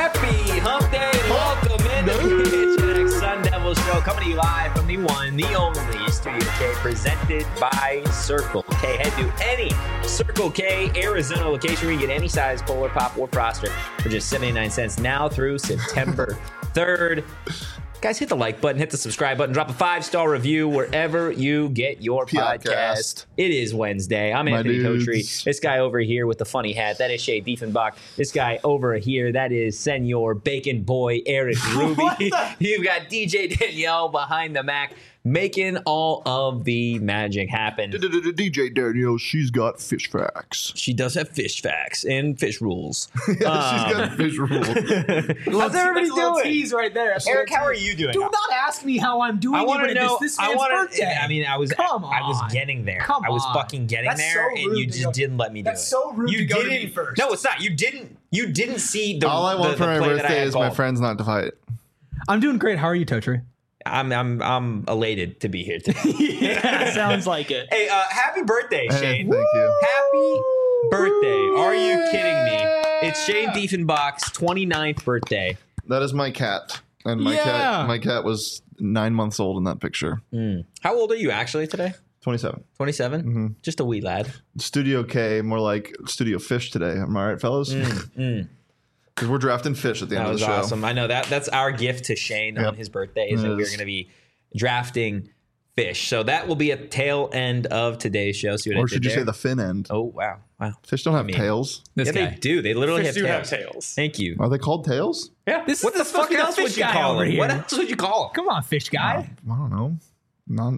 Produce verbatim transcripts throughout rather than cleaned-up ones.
Happy Hump Day and welcome into the P H N X Sun Devil Show, coming to you live from the one, the only Studio K, presented by Circle K. Head to any Circle K Arizona location where you get any size Polar Pop or Froster for just seventy-nine cents now through September third. Guys, hit the like button, hit the subscribe button, drop a five-star review wherever you get your podcast. podcast. It is Wednesday. I'm My Anthony dudes. Totri. This guy over here with the funny hat, that is Shay Diefenbach. This guy over here, that is Senor Bacon Boy Eric Ruby. You've got D J Danielle behind the Mac, making all of the magic happen. D J Danielle, she's got fish facts. She does have fish facts and fish rules. She's got fish rules. How's everybody That's a little doing? tease right there. That's a Eric, little how are tease. you doing? Do not ask me how I'm doing. I want to even if know. It's this I man's want birthday. to. I mean, I was. Come I was on. getting there. Come I was on. fucking getting That's there, so and rude you to just go- didn't let me do That's it. so rude you to go to didn't. me first. No, it's not. You didn't. You didn't see the. All I want the, for the my play that I birthday had is my called. friends not to fight. I'm doing great. How are you, Totri? I'm. I'm. I'm elated to be here today. Yeah, sounds like it. Hey, uh, happy birthday, Hey, Shane! thank you. Happy birthday! Are you kidding me? It's Shane Diefenbach's twenty-ninth birthday. That is my cat, and my Yeah. cat, my cat was nine months old in that picture. How old are you actually today? Twenty-seven. twenty-seven? Mm-hmm. Just a wee lad. Studio K, more like Studio Fish today. Am I right, fellas? Because we're drafting fish at the end That of was the show. awesome. I know that that's our gift to Shane on Yep. his birthday is It that we're is. going to be drafting fish. So that will be a tail end of today's show. See what I Or did should you there? say the fin end? Oh wow, wow. Fish don't have mean- tails. This yeah, guy. they do. They literally Fish have do tails. have tails. Thank you. Are they called tails? Yeah. This what is the supposed fuck to be the else would fish you guy call over him? here. What else would you call him? Come on, fish guy. I don't know. Non-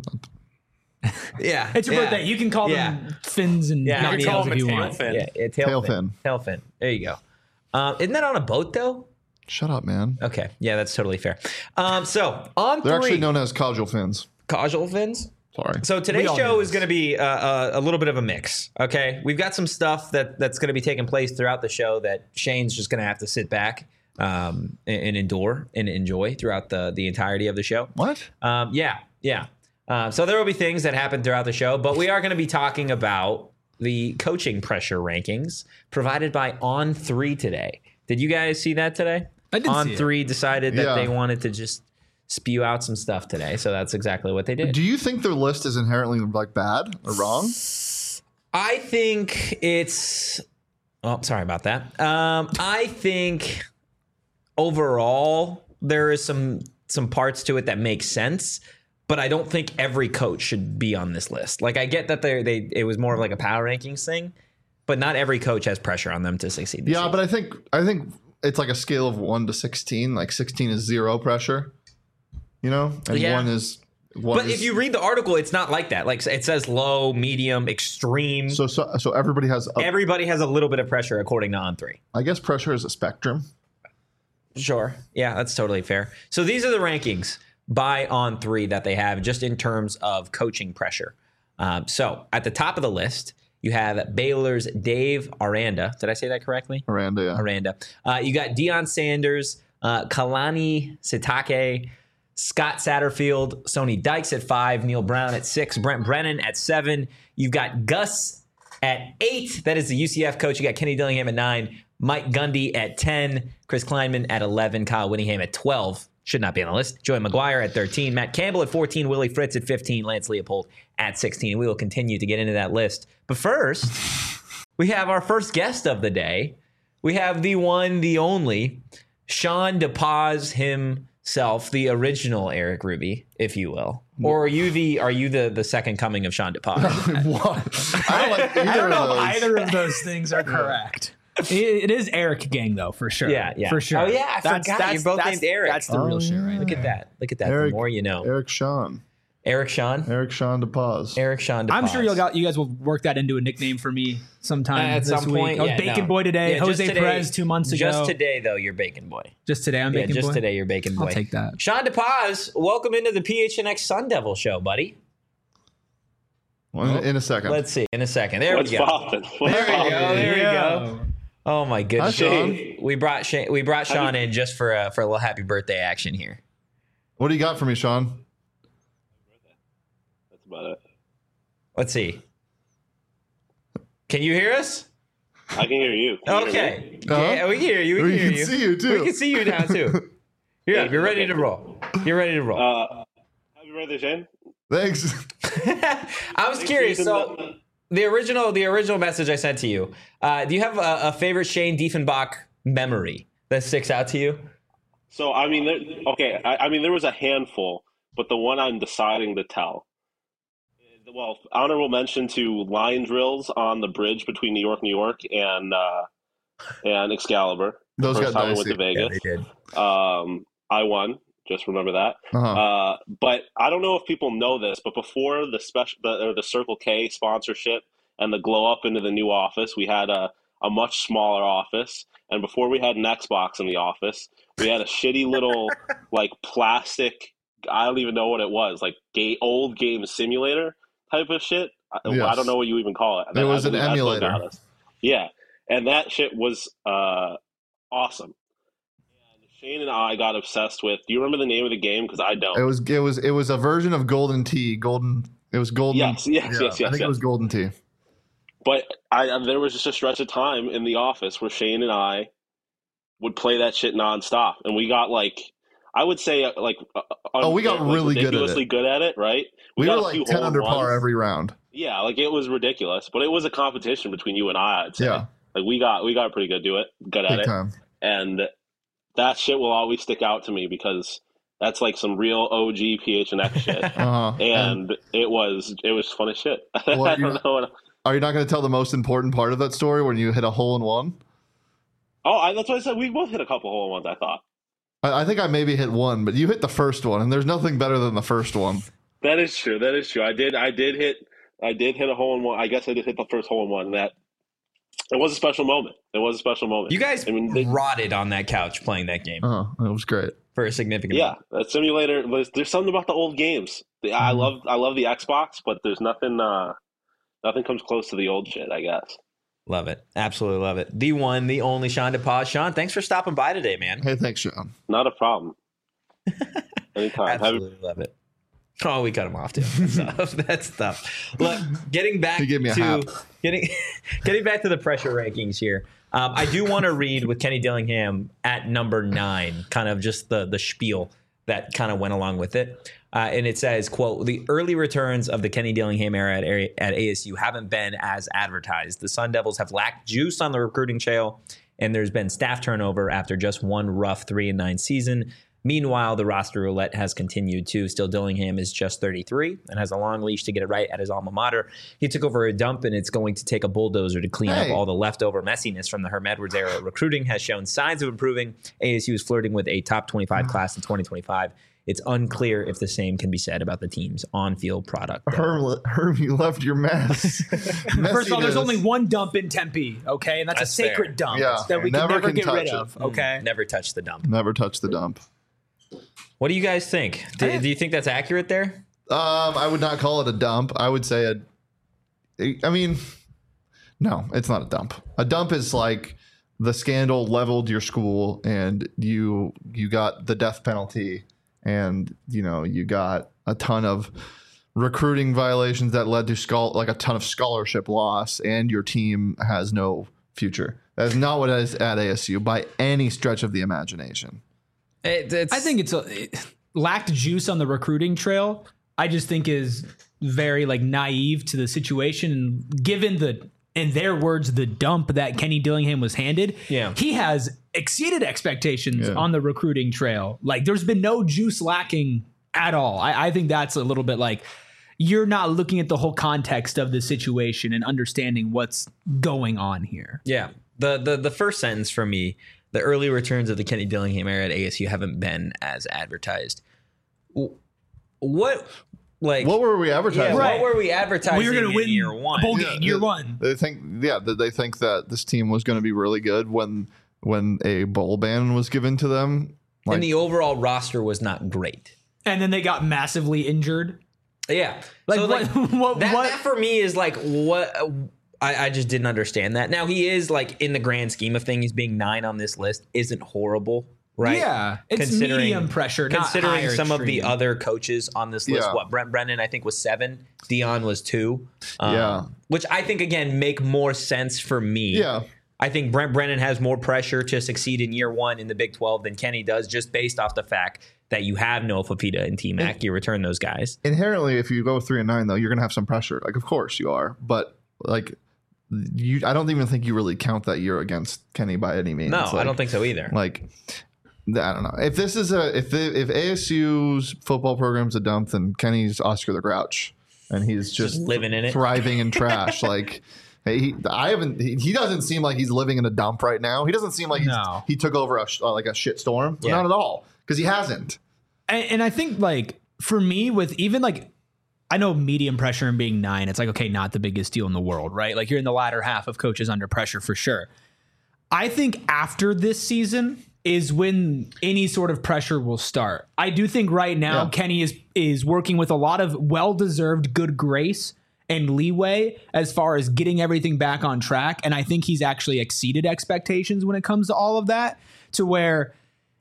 Yeah, It's your yeah. birthday. You can call Yeah. them fins and Yeah, not you can call tails them if a you tail want. fin. Yeah, yeah, tail, Tail fin. fin. Tail fin. There you go. Um, isn't that on a boat though? Shut up, man. Okay, yeah, that's totally fair. Um, so on They're three, actually known as causal fins. causal fins. Sorry. So today's We all show know is going to be uh, uh, a little bit of a mix. Okay, we've got some stuff that that's going to be taking place throughout the show that Shane's just going to have to sit back um, and, and endure and enjoy throughout the the entirety of the show. What? Um, yeah, yeah. Uh, so there will be things that happen throughout the show, but we are going to be talking about the coaching pressure rankings provided by On Three today. Did you guys see that today? I did On see it. Three decided that Yeah. they wanted to just spew out some stuff today, so that's exactly what they did. Do you think their list is inherently like bad or wrong? I think it's. Oh, sorry about that. Um, I think overall there is some some parts to it that make sense, but I don't think every coach should be on this list. Like I get that they they it was more of like a power rankings thing, but not every coach has pressure on them to succeed. This Yeah, year. but I think I think it's like a scale of one to sixteen. Like sixteen is zero pressure, you know, and Yeah. one is one. But is, if you read the article, it's not like that. Like it says low, medium, extreme. so so so everybody has. A, Everybody has a little bit of pressure according to On Three. I guess pressure is a spectrum. Sure. Yeah, that's totally fair. So these are the rankings by On Three that they have just in terms of coaching pressure. Um, so at the top of the list, you have Baylor's Dave Aranda. Did I say that correctly? Miranda, yeah. Aranda. Uh, you got Deion Sanders, uh, Kalani Sitake, Scott Satterfield, Sonny Dykes at five, Neil Brown at six, Brent Brennan at seven. You've got Gus at eight. That is the U C F coach. You got Kenny Dillingham at nine, Mike Gundy at ten, Chris Kleinman at eleven, Kyle Whittingham at twelve. Should not be on the list. Joey McGuire at thirteen, Matt Campbell at fourteen, Willie Fritz at fifteen, Lance Leopold at sixteen. We will continue to get into that list. But first, we have our first guest of the day. We have the one, the only, Sean DePaz himself, the original Eric Ruby, if you will. Or are you the are you the, the second coming of Sean DePaz? What? I don't like either I don't know of if those. either of those things are correct. It, it is Eric Gang, though, for sure. Yeah, yeah. For sure. Oh, yeah, I forgot. You're both that's, named Eric. That's the Oh, real shit, yeah. right? Look Look at that. Look at that. Eric- the more you know. Eric Sean. Eric Sean. Eric Sean DePaz. Eric Sean DePaz. I'm sure you'll got, you guys will work that into a nickname for me sometime at this some week. point. Oh, yeah, Bacon no. Boy today. Yeah, just Jose today- Perez two months ago. Just today, though, you're Bacon Boy. Just today, I'm Yeah, Bacon just Boy. today, you're Bacon Boy. I'll take that. Sean DePaz, welcome into the P H N X Sun Devil show, buddy. Well, in, in a second. Let's see. In a second. There What's we go. poppin'? What's There we poppin'? go. There we Yeah. go. Oh my goodness. Hi, Sean. We brought Shane, we brought Sean in just for a, for a little happy birthday action here. What do you got for me, Sean? That's about it. Let's see. Can you hear us? I can hear you. Can you hear me? Okay. Huh? Yeah, we can hear you. We, We can hear can you. see you, too. We can see you now too. Yeah, you're ready to roll. You're ready to roll. Uh, happy birthday, Shane. Thanks. I was curious. So the original, the original message I sent to you. Uh, do you have a, a favorite Shane Diefenbach memory that sticks out to you? So I mean, there, okay, I, I mean there was a handful, but the one I'm deciding to tell. Well, honorable mention to line drills on the bridge between New York, New York, and uh, and Excalibur. Those First got time I went dicey. to Vegas. did. Um, I won. Just remember that. Uh-huh. Uh, but I don't know if people know this, but before the special, the, or the Circle K sponsorship and the glow up into the new office, we had a, a much smaller office. And before we had an Xbox in the office, we had a shitty little like plastic. I don't even know what it was, like gay, old game simulator type of shit. I, Yes. I don't know what you even call it. It was I an believe that's what emulator. got us. Yeah, and that shit was uh, awesome. Shane and I got obsessed with. Do you remember the name of the game? Because I don't. It was it was it was a version of Golden Tee. Golden. It was Golden. Yes, yes, yeah, yes, yes, I think yes. it was Golden Tee. But I, there was just a stretch of time in the office where Shane and I would play that shit nonstop, and we got like, I would say uh, like, uh, Oh, we got like, really good at it. ridiculously good at it, right? We, got were a like few ten under hole-in-ones. par every round. Yeah, like it was ridiculous, but it was a competition between you and I. I'd say. Yeah, Like we got we got pretty good do it, good at big it, time. and that shit will always stick out to me because that's like some real O G P H N X shit. Uh-huh. And it was it was fun as shit. Well, I you're don't know. What, Are you not going to tell the most important part of that story when you hit a hole in one? oh, I, that's what I said. We both hit a couple hole in ones. I thought I, I think I maybe hit one, but you hit the first one, and there's nothing better than the first one. that is true. That is true. I did. I did hit. I did hit a hole in one. I guess I did hit the first hole in one. That it was a special moment. It was a special moment. You guys I mean, they, rotted on that couch playing that game Oh, it was great. for a significant. yeah, that simulator. There's, there's something about the old games. The, I Mhm. love. I love the Xbox, but there's nothing. Uh, nothing comes close to the old shit. I guess. Love it. Absolutely love it. The one, the only Sean DePaz. Sean, thanks for stopping by today, man. Hey, thanks, Sean. Not a problem. Anytime. Have you- Absolutely love it. Oh, we cut him off too. That's tough. That's tough. Look, getting back He gave me a to hap. getting getting back to the pressure rankings here. Um, I do want to read with Kenny Dillingham at number nine, kind of just the the spiel that kind of went along with it. Uh, and it says, quote, the early returns of the Kenny Dillingham era at, at A S U haven't been as advertised. The Sun Devils have lacked juice on the recruiting trail, and there's been staff turnover after just one rough three and nine season. Meanwhile, the roster roulette has continued too. Still, Dillingham is just thirty-three and has a long leash to get it right at his alma mater. He took over a dump, and it's going to take a bulldozer to clean Hey. up all the leftover messiness from the Herm Edwards era. Recruiting has shown signs of improving. A S U is flirting with a top twenty-five class in twenty twenty-five. It's unclear if the same can be said about the team's on-field product. Herm, Herm, you left your mess. First of all, there's Messiness. only one dump in Tempe, okay? And that's, That's a sacred fair. dump Yeah. that we Never can never can get touch rid it. of, okay? Never touch the dump. Never touch the dump. What do you guys think? Do, do you think that's accurate there? Um, I would not call it a dump. I would say a. I mean, no, it's not a dump. A dump is like the scandal leveled your school, and you you got the death penalty, and you know you got a ton of recruiting violations that led to schol- like a ton of scholarship loss, and your team has no future. That is not what it is at A S U by any stretch of the imagination. It, it's, I think it's a, it lacked juice on the recruiting trail. I just think is very like naive to the situation, and given the, in their words, the dump that Kenny Dillingham was handed. Yeah. He has exceeded expectations Yeah. on the recruiting trail. Like there's been no juice lacking at all. I, I think that's a little bit like you're not looking at the whole context of the situation and understanding what's going on here. Yeah. The, the the first sentence for me, the early returns of the Kenny Dillingham era at A S U haven't been as advertised. W- What, like, What were we yeah, advertising? Right. what were we advertising We were going in to win year a one? bowl Yeah, game year yeah. one. They think, yeah, that they think that this team was going to be really good when when a bowl ban was given to them. Like, And the overall roster was not great. And then they got massively injured. Yeah. Like, so, what- what- that, what- that for me is like what I, I just didn't understand that. Now he is like in the grand scheme of things, being nine on this list isn't horrible. right? Yeah, it's medium pressure, not considering higher some of the extreme. other coaches on this list. Yeah. What Brent Brennan I think was seven, Dion was two. Um, Yeah. which I think again make more sense for me. Yeah. I think Brent Brennan has more pressure to succeed in year one in the Big twelve than Kenny does, just based off the fact that you have Noah Fafita and T-Mac. You return those guys. Inherently, if you go three and nine, though, you're going to have some pressure. Like, of course you are. But, like, you, I don't even think you really count that year against Kenny by any means. No, like, I don't think so either. Like, I don't know. If this is a, if the, if A S U's football program's a dump, then Kenny's Oscar the Grouch. And he's just, Just living in it. thriving in trash. Like, he, I haven't, he, he doesn't seem like he's living in a dump right now. He doesn't seem like he's, No. he took over a, sh- uh, like a shit storm. Yeah. Not at all. Because he hasn't. And, and I think like for me, with even like, I know medium pressure and being nine, it's like, okay, not the biggest deal in the world, right? Like you're in the latter half of coaches under pressure for sure. I think after this season is when any sort of pressure will start. I do think right now Yeah. Kenny is is working with a lot of well-deserved good grace and leeway as far as getting everything back on track. And I think he's actually exceeded expectations when it comes to all of that, to where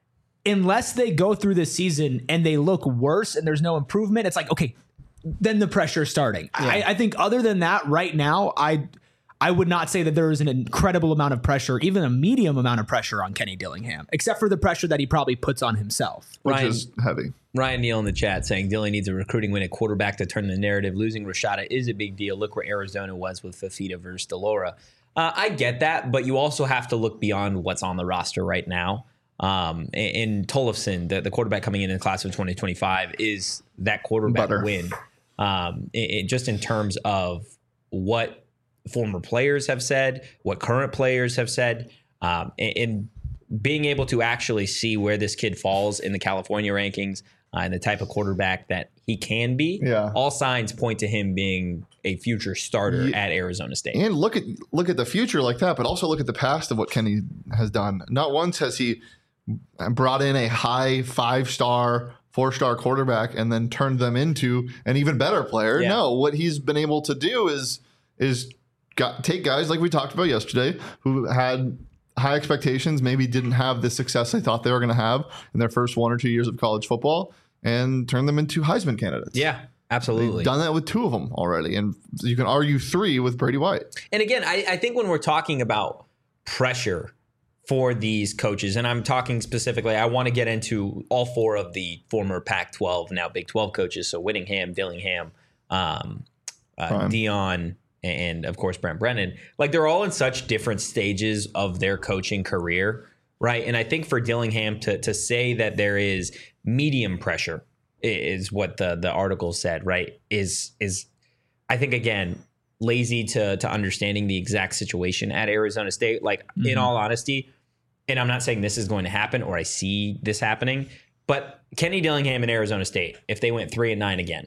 unless they go through this season and they look worse and there's no improvement, it's like, okay, then the pressure's starting. I, I think other than that, right now, I I would not say that there is an incredible amount of pressure, even a medium amount of pressure on Kenny Dillingham, except for the pressure that he probably puts on himself. Which Ryan- is heavy. Ryan Neal in the chat saying Dilly needs a recruiting win at quarterback to turn the narrative. Losing Rashada is a big deal. Look where Arizona was with Fafita versus Delora. Uh, I get that, but you also have to look beyond what's on the roster right now. Um, and, and Tollefson, the, the quarterback coming in in the class of twenty twenty-five, is that quarterback Butter. win. Um, it, it- just in terms of what former players have said, what current players have said, um, and, and being able to actually see where this kid falls in the California rankings uh, and the type of quarterback that he can be. Yeah. All signs point to him being a future starter Yeah. at Arizona State. And look at look at the future like that, but also look at the past of what Kenny has done. Not once has he brought in a high five star, four star quarterback and then turned them into an even better player. Yeah. No, what he's been able to do is is got, take guys like we talked about yesterday who had high expectations, maybe didn't have the success they thought they were going to have in their first one or two years of college football, and turn them into Heisman candidates. Yeah, absolutely. Done that with two of them already, and you can argue three with Brady White. And again, I, I think when we're talking about pressure for these coaches, and I'm talking specifically, I want to get into all four of the former Pac twelve, now Big twelve coaches. So Whittingham, Dillingham, um, uh, Prime. Dion, and of course Brent Brennan. Like they're all in such different stages of their coaching career, right? And I think for Dillingham to to say that there is medium pressure is what the the article said, right? Is is I think again lazy to to understanding the exact situation at Arizona State. Like Mm-hmm. in all honesty, and I'm not saying this is going to happen or I see this happening, but Kenny Dillingham and Arizona State, if they went three and nine again,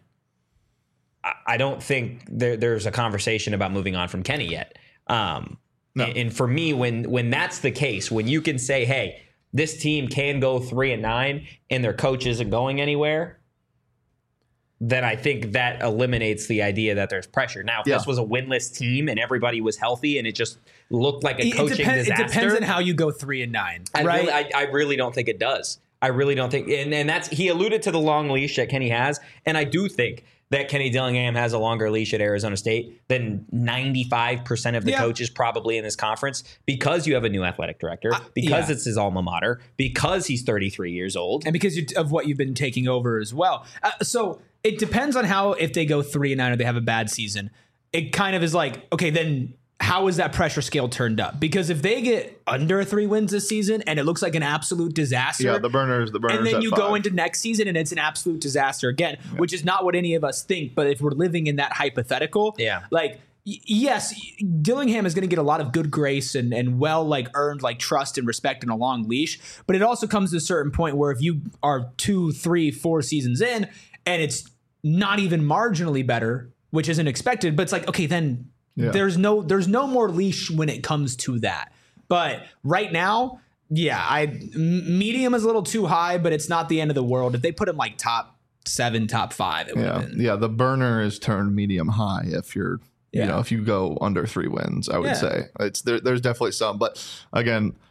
I, I don't think there, there's a conversation about moving on from Kenny yet. Um, No. and, and for me, when when that's the case, when you can say, hey, this team can go three and nine and their coach isn't going anywhere, then I think that eliminates the idea that there's pressure. Now, if Yeah. this was a winless team and everybody was healthy and it just looked like a It, coaching depends, it disaster, depends on how you go three and nine, I right? really, I, I really don't think it does. I really don't think, and, and that's he alluded to the long leash that Kenny has, and I do think that Kenny Dillingham has a longer leash at Arizona State than ninety-five percent of the Yeah. coaches probably in this conference, because you have a new athletic director, because yeah. it's his alma mater, because he's thirty-three years old. and because you, of what you've been taking over as well. Uh, so it depends on how, if they go three and nine or they have a bad season, it kind of is like, okay, then how is that pressure scale turned up? Because if they get under three wins this season and it looks like an absolute disaster, Yeah, the burners, the burners. and then at you five. go into next season and it's an absolute disaster again, which is not what any of us think. But if we're living in that hypothetical, Yeah. like y- yes, Dillingham is going to get a lot of good grace and and well like earned like trust and respect and a long leash. But it also comes to a certain point where if you are two, three, four seasons in and it's not even marginally better, which isn't expected, but it's like, okay, then Yeah. there's no there's no more leash when it comes to that. But right now, yeah, I m- medium is a little too high, but it's not the end of the world. If they put him like top seven, top five, it would Yeah, have been. yeah. The burner is turned medium high if you're, Yeah. you know, if you go under three wins. I would Yeah. say it's there. There's definitely some, but again,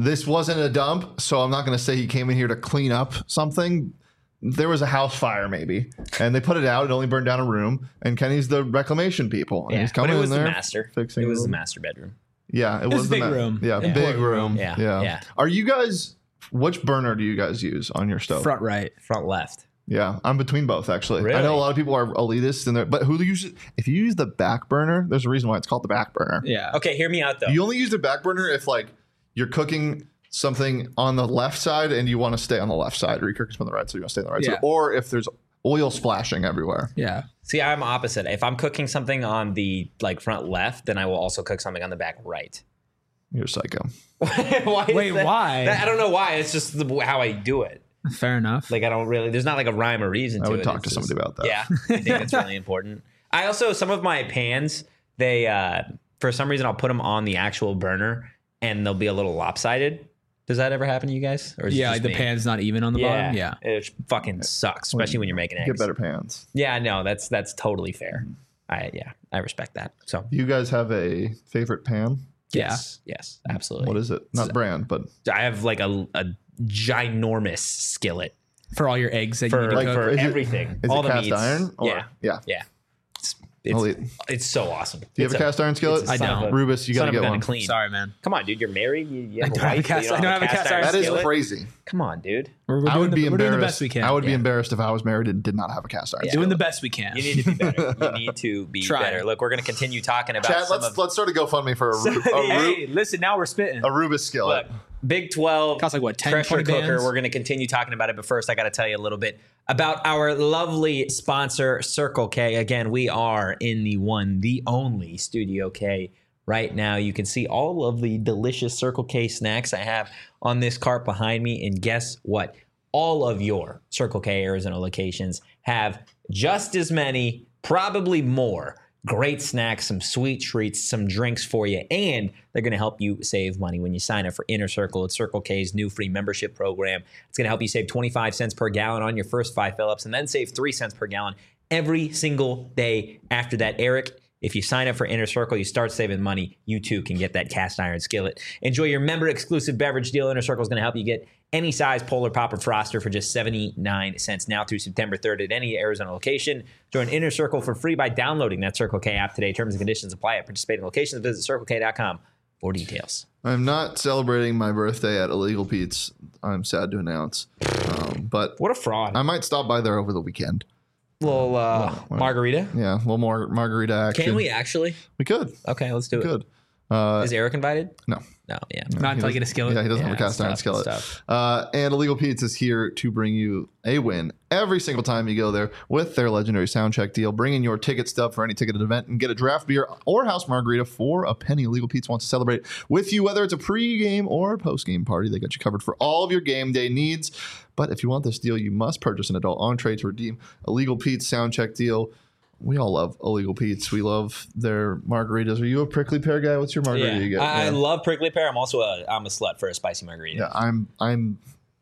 this wasn't a dump, so I'm not going to say he came in here to clean up something. There was a house fire maybe, and they put it out. It only burned down a room, and Kenny's the reclamation people. And Yeah, he's but coming it was in the there, master. fixing It was a the little- master bedroom. Yeah, it, was was a the big ma- room. Yeah, Yeah. big room. Yeah, yeah, yeah. Are you guys? Which burner do you guys use on your stove? Front right. Front left. Yeah, I'm between both actually. Really? I know a lot of people are elitist in there, but who uses? If you use the back burner, there's a reason why it's called the back burner. Yeah. Okay, hear me out though. You only use the back burner if like you're cooking something on the left side and you want to stay on the left side, or you're cooking from the right side, you want to stay on the right Yeah. side, or if there's oil splashing everywhere. Yeah. See, I'm opposite. If I'm cooking something on the like front left, then I will also cook something on the back right. You're psycho. why is Wait, that? why? That- I don't know why. It's just the, how I do it. Fair enough. Like I don't really. There's not like a rhyme or reason I to would it. talk It's to just- somebody about that. Yeah, I think that's really important. I also some of my pans. They uh for some reason I'll put them on the actual burner and they'll be a little lopsided. Does that ever happen to you guys? Or is it yeah, just like the me? pan's not even on the Yeah, bottom. Yeah. it fucking sucks, especially when you're making eggs. Get better pans. Yeah, no, that's that's totally fair. I yeah, I respect that. So Do you guys have a favorite pan? yes, yes, absolutely. What is it? Not brand, but I have like a, a ginormous skillet For all your eggs that for you need to Like, cook. for is it- everything. is all it the cast meats. iron? Or, yeah, yeah. yeah. It's I'll it's, eat. it's so awesome. Do you have It's a cast iron skillet? it's a I son of don't. a- Rubus, you son gotta of a get gun one. and clean. Sorry, man. Come on, dude. You're married. You, you have I a don't have a wife. cast- you I don't have a cast iron That is skillet. crazy. Come on, dude. We're, we're I doing would the, be we're doing embarrassed. the best we can. I would be Yeah. embarrassed if I was married and did not have a cast iron. Yeah. Doing skillet. the best we can. You need to be better. You need to be Trying. better. Look, we're going to continue talking about Chat, some let's of, let's start a GoFundMe for a, Ru- a, Ru- Hey, listen, now we're spitting. a Rubus skillet. Look, Big twelve Costs like, what, ten, pressure twenty cooker. bands? We're going to continue talking about it, but first I got to tell you a little bit about our lovely sponsor, Circle K. Again, we are in the one, the only Studio K right now. You can see all of the delicious Circle K snacks I have on this cart behind me, and guess what? All of your Circle K Arizona locations have just as many, probably more, great snacks, some sweet treats, some drinks for you, and they're going to help you save money when you sign up for Inner Circle. It's Circle K's new free membership program. It's going to help you save twenty-five cents per gallon on your first five fill-ups and then save three cents per gallon every single day after that. Eric, if you sign up for Inner Circle, you start saving money, you too can get that cast iron skillet. Enjoy your member-exclusive beverage deal. Inner Circle is going to help you get any size Polar Pop or Froster for just seventy-nine cents now through September third at any Arizona location. Join Inner Circle for free by downloading that Circle K app today. Terms and conditions apply at participating locations. Visit circle k dot com for details. I'm not celebrating my birthday at Illegal Pete's. I'm sad to announce, um, but What a fraud. I might stop by there over the weekend. little uh, margarita. Yeah, a little more margarita action. Can we actually? We could. Okay, let's do it. Good. Uh, Is Eric invited? no. No, yeah. Not until I get a skillet. Yeah, he doesn't Yeah, have a cast it's iron tough, skillet. it's tough. Uh, and Illegal Pete's is here to bring you a win every single time you go there with their legendary sound check deal. Bring in your ticket stub for any ticketed event and get a draft beer or house margarita for a penny. Illegal Pete's wants to celebrate with you, whether it's a pre-game or post-game party. They got you covered for all of your game day needs. But if you want this deal, you must purchase an adult entree to redeem Illegal Pete's sound check deal. We all love Illegal Pete's. We love their margaritas. Are you a prickly pear guy? What's your margarita Yeah. you get? I, I Yeah. love prickly pear. I'm also a I'm a slut for a spicy margarita. Yeah, I'm. I'm.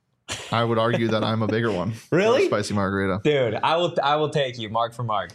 I would argue that I'm a bigger one. for a Really? spicy margarita. Dude, I will I will take you mark for mark.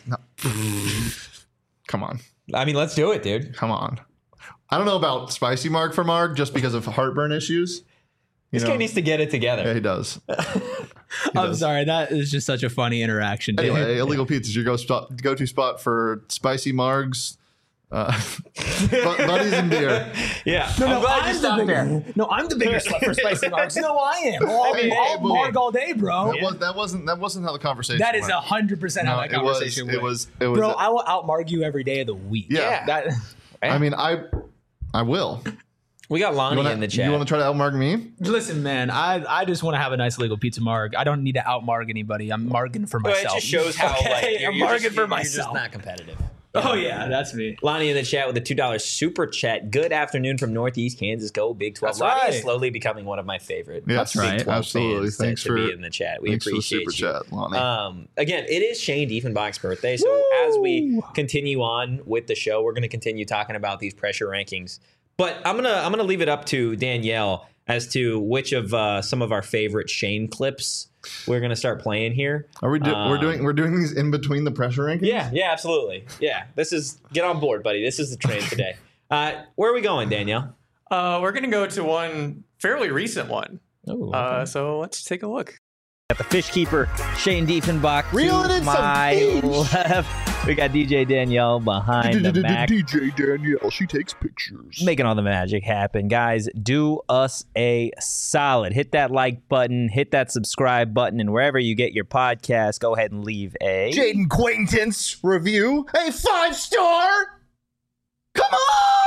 Come on, I mean, let's do it, dude. come on. I don't know about spicy marg for marg just because of heartburn issues. You This know? guy needs to get it together. Yeah, he does. He I'm does. sorry. That is just such a funny interaction. dude. Anyway, Illegal Pete's is your go spot, go-to spot for spicy margs, uh, bu- buddies and beer. Yeah. No, I'm no, glad you I'm the stopped there. bigger, no, I'm the bigger slut for spicy margs. No, I am. All, Hey, hey, all boy. marg all day, bro. That, was, that wasn't that wasn't how the conversation. That is went. a hundred percent how No, that it was. conversation It went. was. It was. Bro, I will outmarg you every day of the week. Yeah. That, I mean, I. I will. We got Lonnie You wanna, in the chat. You want to try to outmarg me? listen, man, I I just want to have a nice legal pizza marg. I don't need to outmarg anybody. I'm marging for Well, myself. it just shows how Okay? like you're, I'm you're marging just, for you're myself. just not competitive. Oh yeah, that's me. Lonnie in the chat with a two dollar super chat. Good afternoon from Northeast Kansas. Go Big twelve. That's Lonnie right. is slowly becoming one of my favorite. Yeah, that's Big right. twelve Absolutely. fans to- Thanks to, for- be in the chat. We Thanks for the appreciate super you. chat, Lonnie. Um, again, it is Shane Diefenbach's birthday, so as we continue on with the show, we're going to continue talking about these pressure rankings. But I'm gonna I'm gonna leave it up to Danielle as to which of uh, some of our favorite Shane clips we're gonna start playing here. Are we? Do, we're Um, doing. We're doing these in between the pressure rankings. Yeah, yeah, absolutely. Yeah, this is get on board, buddy. This is the train today. Uh, where are we going, Danielle? Uh, we're gonna go to one fairly recent one. Oh, Uh, so let's take a look. got the fish keeper, Shane Diefenbach, Reeling to in some my fish. left. We got D J Danielle behind the Mac, D J Danielle, she takes pictures. making all the magic happen. Guys, do us a solid. Hit that like button, hit that subscribe button, and wherever you get your podcast, go ahead and leave a... Jaden Quaintance review, a five star. Come on!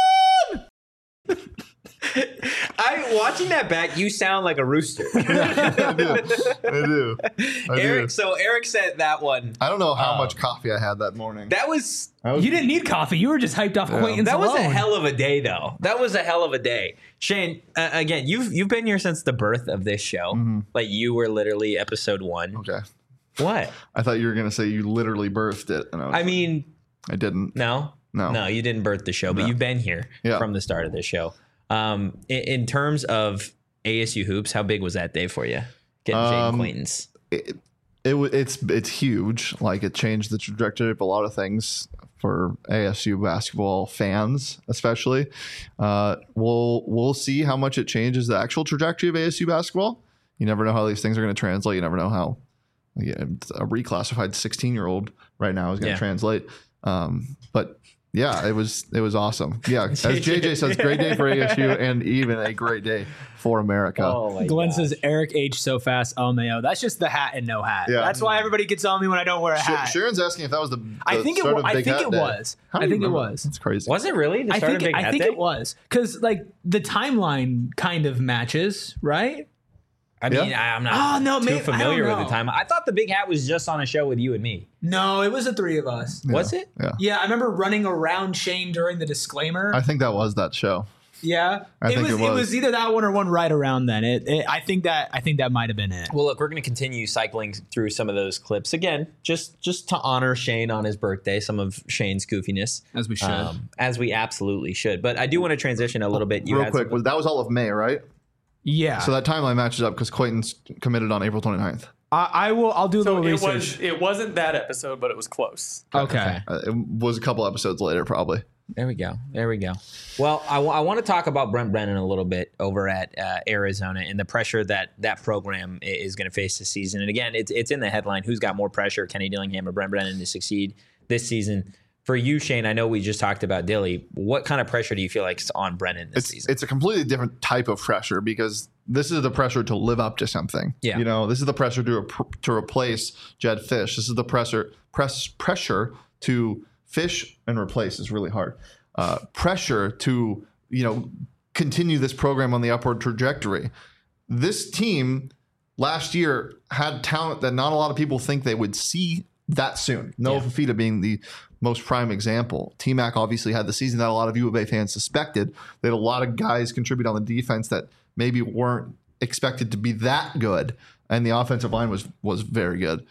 I watching that back, you sound like a rooster. I do. I do. I Eric, do. so Eric said that one. I don't know how Um, much coffee I had that morning. That was I was, You didn't need coffee. You were just hyped off Quaintance that was a alone. hell of a day, though. That was a hell of a day. Shane, uh, again, you've you've been here since the birth of this show. Mhm. Like you were literally episode one. Okay. What? I thought you were gonna say you literally birthed it, and I, was, I mean, I didn't. no, No. no, you didn't birth the show, but No. you've been here Yeah. from the start of this show. Um, in, in terms of A S U hoops, how big was that day for you? Getting Jaden Um, Quaintance. It, it wa- it's it's huge. Like it changed the trajectory of a lot of things for A S U basketball fans, especially. Uh, we'll we'll see how much it changes the actual trajectory of A S U basketball. You never know how these things are going to translate. You never know how yeah, a reclassified sixteen year old right now is going to Yeah. translate. Um, but yeah, it was it was awesome. Yeah, as J J says, great day for A S U and even a great day for America. Oh my Glenn gosh. says Eric H so fast, L M A O. That's just the hat and no hat. Yeah. That's why everybody gets on me when I don't wear a Sh- hat. Sharon's asking if that was the, the I think it. start wa- of I Big think Hat it Day. was. How do I you think it remember? was. That's crazy. Was it really the I start think. of Big I Hat think Day? it was because like the timeline kind of matches, right? I mean, Yeah. I, I'm not Oh, no, too maybe- I familiar don't with the know. time. I thought the Big Hat was just on a show with you and me. No, it was the three of us. Yeah. Was it? Yeah. Yeah, I remember running around Shane during the disclaimer. I think that was that show. yeah, I it think was, it was. either that one or one right around then. It, it. I think that. I think that might have been it. Well, look, we're going to continue cycling through some of those clips again, just just to honor Shane on his birthday, some of Shane's goofiness, As we should. um, as we absolutely should. But I do want to transition a little bit. You Real had quick, some- was, that was all of May, right? yeah. So that timeline matches up because Quaintance committed on April twenty-ninth. I, I will. I'll do a So little it research. was it wasn't that episode, but it was close. okay. Uh, it was a couple episodes later, probably. There we go. There we go. Well, I, w- I want to talk about Brent Brennan a little bit over at uh, Arizona and the pressure that that program i- is going to face this season. And again, it's it's in the headline. Who's got more pressure, Kenny Dillingham or Brent Brennan, to succeed this season? For you, Shane, I know we just talked about Dilly. What kind of pressure do you feel like is on Brennan this It's season? it's a completely different type of pressure because this is the pressure to live up to something. Yeah. You know, this is the pressure to to replace Jed Fish. This is the pressure press pressure to fish and replace is really hard. Uh, pressure to you know continue this program on the upward trajectory. This team last year had talent that not a lot of people think they would see that soon. Noah Yeah. Fafita being the most prime example. T-Mac obviously had the season that a lot of U of A fans suspected. They had a lot of guys contribute on the defense that maybe weren't expected to be that good, and the offensive line was was very good.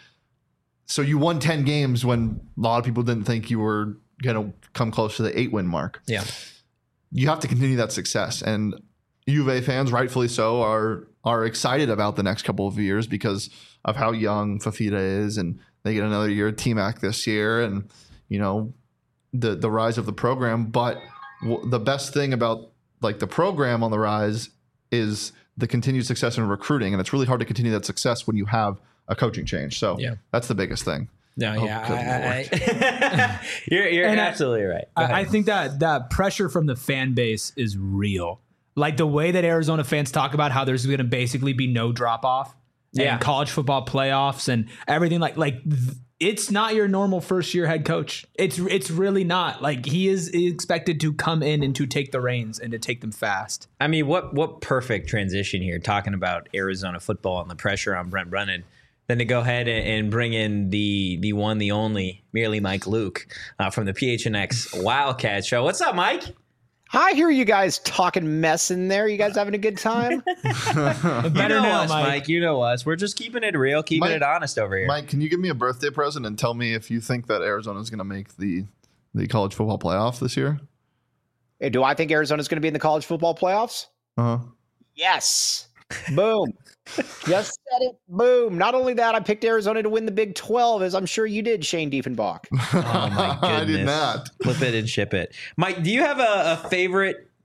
So you won ten games when a lot of people didn't think you were going to come close to the eight win mark. yeah. You have to continue that success, and U of A fans, rightfully so, are are excited about the next couple of years because of how young Fafita is, and they get another year at T-Mac this year, and you know the the rise of the program. But w- the best thing about like the program on the rise is the continued success in recruiting, and it's really hard to continue that success when you have a coaching change. So Yeah. that's the biggest thing. No, Oh, yeah. good I- I- I- you're you're And I- absolutely right. Go ahead. I, I think that that pressure from the fan base is real. Like the way that Arizona fans talk about how there's going to basically be no drop off. Yeah. And college football playoffs and everything like like th- it's not your normal first year head coach. It's it's really not. Like he is expected to come in and to take the reins and to take them fast. I mean, what what perfect transition here, talking about Arizona football and the pressure on Brent Brennan, than to go ahead and, and bring in the the one, the only, merely Mike Luke uh, from the P H N X Wildcat Show. What's up, Mike? I hear you guys talking mess in there. You guys having a good time? You Better know now, us, Mike. Mike. You know us. We're just keeping it real, keeping Mike- it honest over here. Mike, can you give me a birthday present and tell me if you think that Arizona is going to make the the college football playoff this year? Hey, do I think Arizona's going to be in the college football playoffs? Uh huh. Yes. Boom. Just said it. Boom. Not only that, I picked Arizona to win the Big twelve, as I'm sure you did, Shane Diefenbach. Oh my goodness! I did not. Flip it and ship it, Mike. Do you have a, a favorite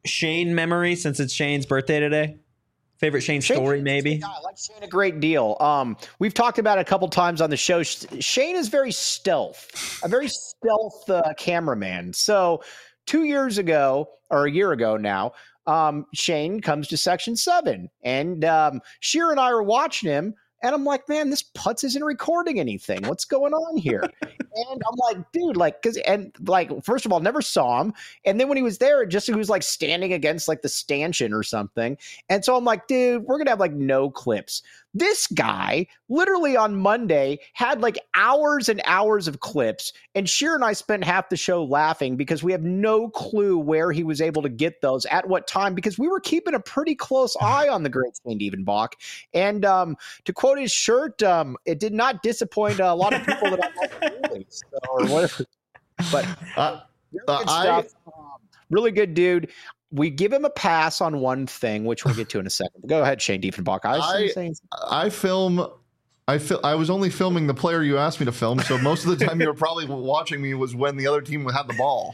Shane memory since it's Shane's birthday today? Favorite Shane, Shane, story, maybe? I like Shane a great deal. Um, we've talked about it a couple times on the show. Shane is very stealth, a very stealth uh, cameraman. So two years ago, or a year ago now, um, Shane comes to Section seven, and um, Sheer and I are watching him, and I'm like, man, this putz isn't recording anything. What's going on here? And I'm like, dude, like, cause, and like, first of all, never saw him. And then when he was there, it just, he was like standing against like the stanchion or something. And so I'm like, dude, we're going to have like no clips. This guy literally on Monday had like hours and hours of clips. And Sheer and I spent half the show laughing because we have no clue where he was able to get those at what time, because we were keeping a pretty close eye on the great Shane Diefenbach. And um, to quote his shirt, um, it did not disappoint a lot of people that I like. So, or whatever. But Uh, really uh, good I- stuff. Um, really good dude. We give him a pass on one thing, which we'll get to in a second. Go ahead, Shane Diefenbach. I, was I- saying, I film. I fil- I was only filming the player you asked me to film, so most of the time you were probably watching me was when the other team had the ball.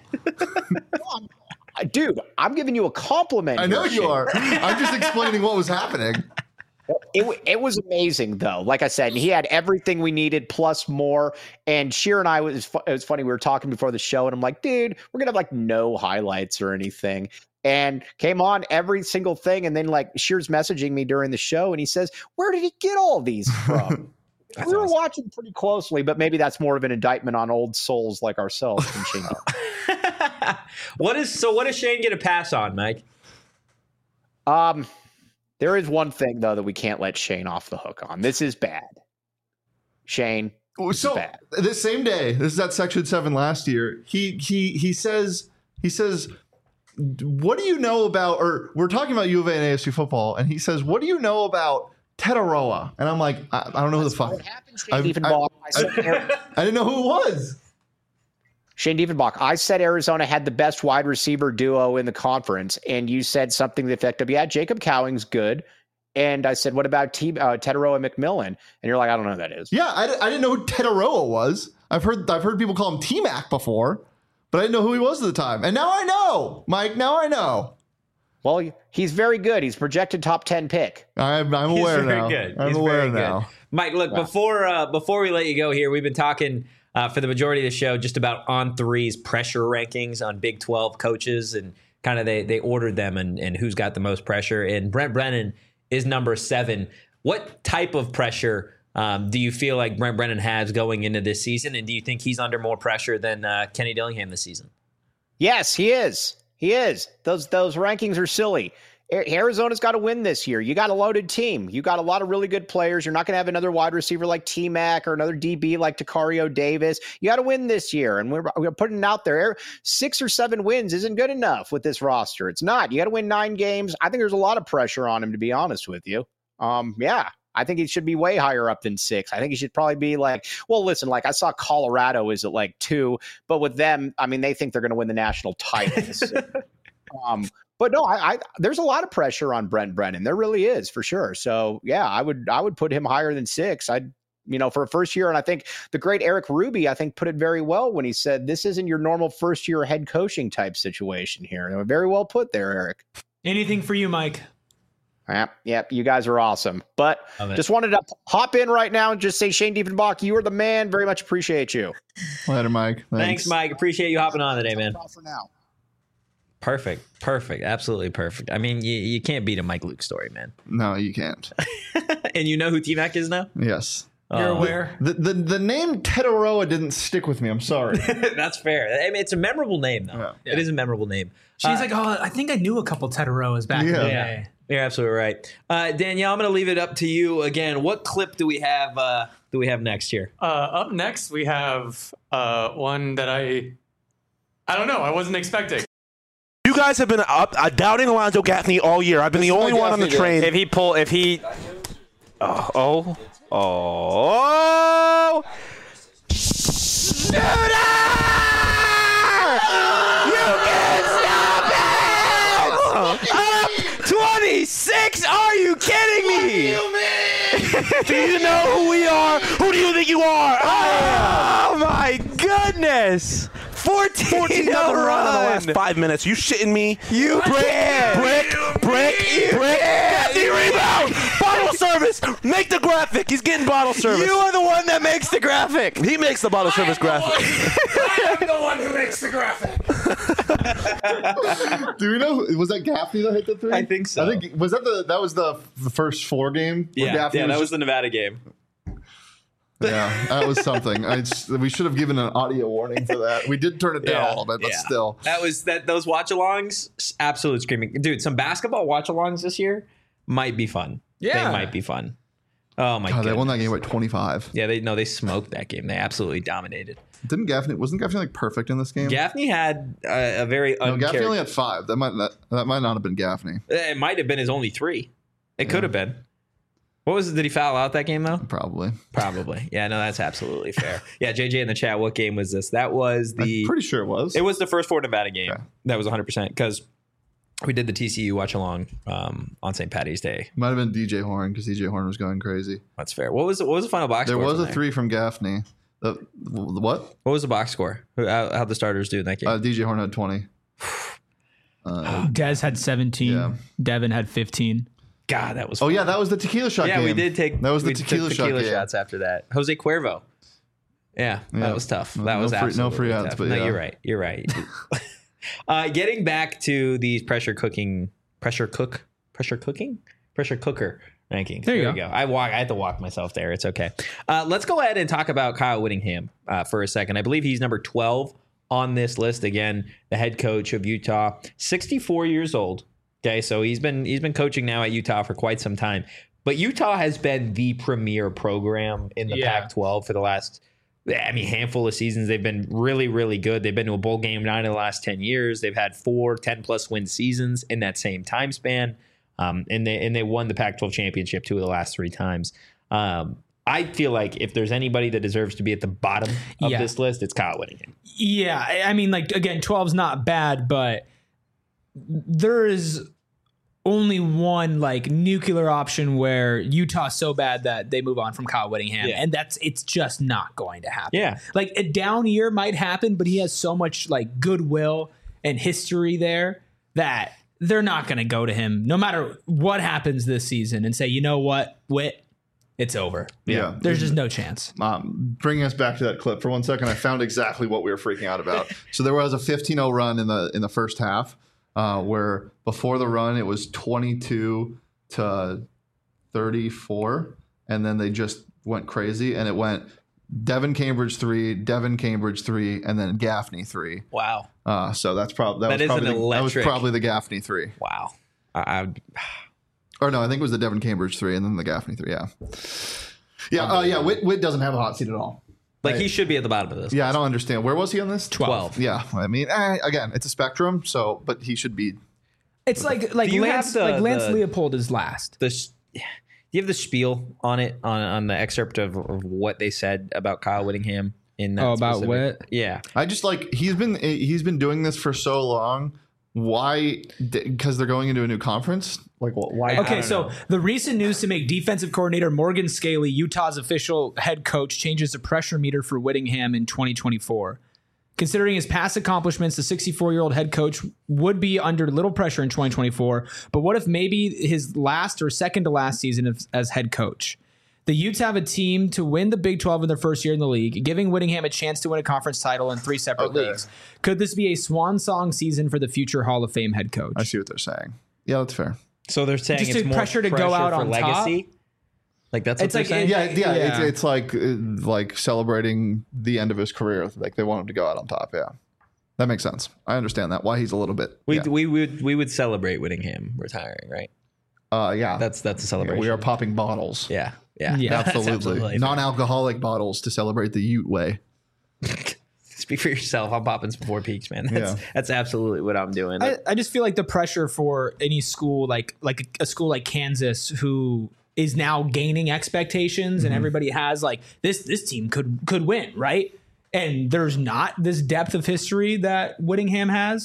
I- dude, I'm giving you a compliment. I know here, you Shane. are. I'm just explaining what was happening. It, wa- it was amazing, though. Like I said, he had everything we needed plus more. And Sheer and I was fu- it was funny. We were talking before the show, and I'm like, dude, we're gonna have like no highlights or anything. And came on every single thing, and then like Sheer's messaging me during the show, and he says, "Where did he get all these from?" That's we were awesome. watching pretty closely, but maybe that's more of an indictment on old souls like ourselves than Shane. What is so? What does Shane get a pass on, Mike? Um, there is one thing though that we can't let Shane off the hook on. This is bad. Shane, So bad. this same day, this is at Section Seven last year. He he he says he says, "What do you know about?" Or we're talking about U of A and A S U football, and he says, "What do you know about Tetaroa?" And I'm like, I, I don't know who the fuck. What happened, Shane I've- Diefenbach? I said, I didn't know who it was. Shane Diefenbach, I said Arizona had the best wide receiver duo in the conference, and you said something to the effect of, yeah, Jacob Cowing's good. And I said, what about T- uh, Tetaroa McMillan? And you're like, I don't know who that is. Yeah, I, di- I didn't know who Tetaroa was. I've heard I've heard people call him T-Mac before, but I didn't know who he was at the time. And now I know, Mike. Now I know. Well, he's very good. He's projected top ten pick. I'm, I'm He's aware very now. good. I'm He's aware very good. now. Mike, look, before uh, before we let you go here, we've been talking uh, for the majority of the show just about On Three's pressure rankings on Big twelve coaches, and kind of they they ordered them and, and who's got the most pressure. And Brent Brennan is number seven. What type of pressure um, do you feel like Brent Brennan has going into this season? And do you think he's under more pressure than uh, Kenny Dillingham this season? Yes, he is. He is. Those those rankings are silly. A- Arizona's got to win this year. You got a loaded team. You got a lot of really good players. You're not going to have another wide receiver like T-Mac or another D B like Tacario Davis. You got to win this year, and we're, we're putting it out there. Six or seven wins isn't good enough with this roster. It's not. You got to win nine games. I think there's a lot of pressure on him, to be honest with you. Um, yeah. I think he should be way higher up than six. I think he should probably be like, well, listen, like I saw Colorado is at like two, but with them, I mean, they think they're going to win the national title. So, um, but no, I, I there's a lot of pressure on Brent Brennan. There really is, for sure. So yeah, I would I would put him higher than six. I'd you know for a first year, and I think the great Eric Ruby, I think, put it very well when he said this isn't your normal first year head coaching type situation here. And very well put there, Eric. Anything for you, Mike? Yep, yep, you guys are awesome. But Love it. just wanted to hop in right now and just say, Shane Diefenbach, you are the man. Very much appreciate you. Later, Mike. Thanks, Mike. Appreciate you hopping on today, man. For now. Perfect. Perfect. Absolutely perfect. I mean, you, you can't beat a Mike Luke story, man. No, you can't. And you know who T-Mac is now? Yes. You're Uh, aware? The, the the name Tetaroa didn't stick with me. I'm sorry. That's fair. I mean, it's a memorable name, though. Yeah. It is a memorable name. She's Uh, like, oh, I think I knew a couple Tetaroas back in Yeah. the Yeah. day. You're absolutely right. Uh, Danielle, I'm going to leave it up to you again. What clip do we have? Uh, do we have next here? Uh, up next, we have uh, one that I, I don't know, I wasn't expecting. You guys have been up, uh, doubting Alonzo Gaffney all year. I've been the only one on the train. If he pull, if he, oh, oh, oh, Shooter! You can stop it! Up twenty-six? Are you kidding me? Do you know who we are? Who do you think you are? Oh my goodness! fourteen, fourteen no nothing run in the run. last five minutes. You shitting me? You brick, can. brick, brick, brick. Gaffney rebound. Bottle service. Make the graphic. He's getting bottle service. You are the one that makes the graphic. He makes the bottle service graphic. I am the one who makes the graphic. Do we know? Was that Gaffney that hit the three? I think so. I think was that the that was the the first four game. where Yeah, Gaffney yeah, that was just- the Nevada game. yeah, that was something. I just, we should have given an audio warning for that. We did turn it down a little bit, but yeah. still. That was that those watch-alongs, absolute screaming. Dude, some basketball watch-alongs this year might be fun. Yeah. They might be fun. Oh my God, god. they won that game by twenty-five. Yeah, they no, they smoked that game. They absolutely dominated. Didn't Gaffney? Wasn't Gaffney like perfect in this game? Gaffney had a, a very No, Gaffney uncharac- only had five. That might that, that might not have been Gaffney. It might have been his only three. It could have been. What was it? Did he foul out that game though? Probably. Probably. Yeah, no, that's absolutely fair. Yeah, J J in the chat, what game was this? That was the I'm pretty sure it was. It was the first four Nevada game. Okay. That was one hundred percent because we did the T C U watch along um, on Saint Patty's Day. Might have been D J Horn because D J Horn was going crazy. That's fair. What was the, what was the final box There score? was from a there? three from Gaffney. The, the what? What was the box score? Who- How, how'd the starters do in that game? Uh, D J Horn had twenty. Uh, Dez had seventeen. Yeah. Devin had fifteen. God, that was oh fun. yeah, that was the tequila shot yeah, game. we did take that was the we took tequila, shot tequila game. shots after that. Jose Cuervo. Yeah, Yeah. that was tough. No- That was no free- no absolutely free outs, tough. but no, yeah. you're right. You're right. uh, getting back to these pressure cooking, pressure cook, pressure cooking, pressure cooker rankings. There you we go. go. I walk. I had to walk myself there. It's okay. Uh, let's go ahead and talk about Kyle Whittingham uh, for a second. I believe he's number twelve on this list. Again, the head coach of Utah, sixty-four years old. Okay, so he's been he's been coaching now at Utah for quite some time. But Utah has been the premier program in the Yeah. Pac twelve for the last, I mean, handful of seasons. They've been really, really good. They've been to a bowl game nine of the last ten years. They've had four ten-plus win seasons in that same time span. Um, and they and they won the Pac twelve championship two of the last three times. Um, I feel like if there's anybody that deserves to be at the bottom of Yeah. this list, it's Kyle Whittingham. Yeah, I- I mean, like again, twelve's not bad, but there is only one like nuclear option where Utah's so bad that they move on from Kyle Whittingham, Yeah. and that's it's just not going to happen. Yeah. Like a down year might happen, but he has so much like goodwill and history there that they're not going to go to him no matter what happens this season and say, you know what, Whit, it's over. Yeah. There's just no chance. Um, bringing us back to that clip for one second, I found exactly what we were freaking out about. So there was a fifteen oh run in the in the first half, uh, where before the run it was twenty-two to thirty-four, and then they just went crazy, and it went Devin Cambridge three, Devin Cambridge three, and then Gaffney three. Wow. Uh, so that's probably that, That was is an probably the, that was electric- probably the Gaffney three. Wow. I, I, Or no, I think it was the Devin Cambridge three, and then the Gaffney three. Yeah, yeah, uh, yeah. Witt, Witt doesn't have a hot seat at all. like he should be at the bottom of this. Yeah, I don't understand. Where was he on this? twelve. Yeah, I mean, eh, again, it's a spectrum. So, but he should be. It's like like Do you Lance have the- like Lance the- Leopold is last. The s- do you have the spiel on it on on the excerpt of, of what they said about Kyle Whittingham in that Oh, about specific- Witt? Yeah. I just like he's been he's been doing this for so long. Why? Because they're going into a new conference. Like, wh- why? Okay, don't so know. the recent news to make defensive coordinator Morgan Scaley, Utah's official head coach, changes the pressure meter for Whittingham in twenty twenty-four. Considering his past accomplishments, the sixty-four-year-old head coach would be under little pressure in twenty twenty-four. But what if maybe his last or second to last season of, as head coach? The Utes have a team to win the Big twelve in their first year in the league, giving Whittingham a chance to win a conference title in three separate Okay. leagues. Could this be a swan song season for the future Hall of Fame head coach? I see what they're saying. Yeah, that's fair. So they're saying Just it's to more pressure to go out for on legacy. Like that's what It's they're like- saying. Yeah, yeah. Yeah. It's, it's like uh, like celebrating the end of his career. Like they want him to go out on top. Yeah, that makes sense. I understand that. Why he's a little bit. we yeah. we would we would celebrate Whittingham retiring, right? Uh, yeah. That's that's a Yeah, celebration. we are popping bottles. Yeah. Yeah. Yeah. That's Absolutely. Non-alcoholic bottles to celebrate the Ute way. Speak for yourself. I'm popping some Four Peaks, man. That's Yeah. that's absolutely what I'm doing. I, I just feel like the pressure for any school, like like a school like Kansas, who is now gaining expectations, and everybody has like this this team could could win, right? And there's not this depth of history that Whittingham has.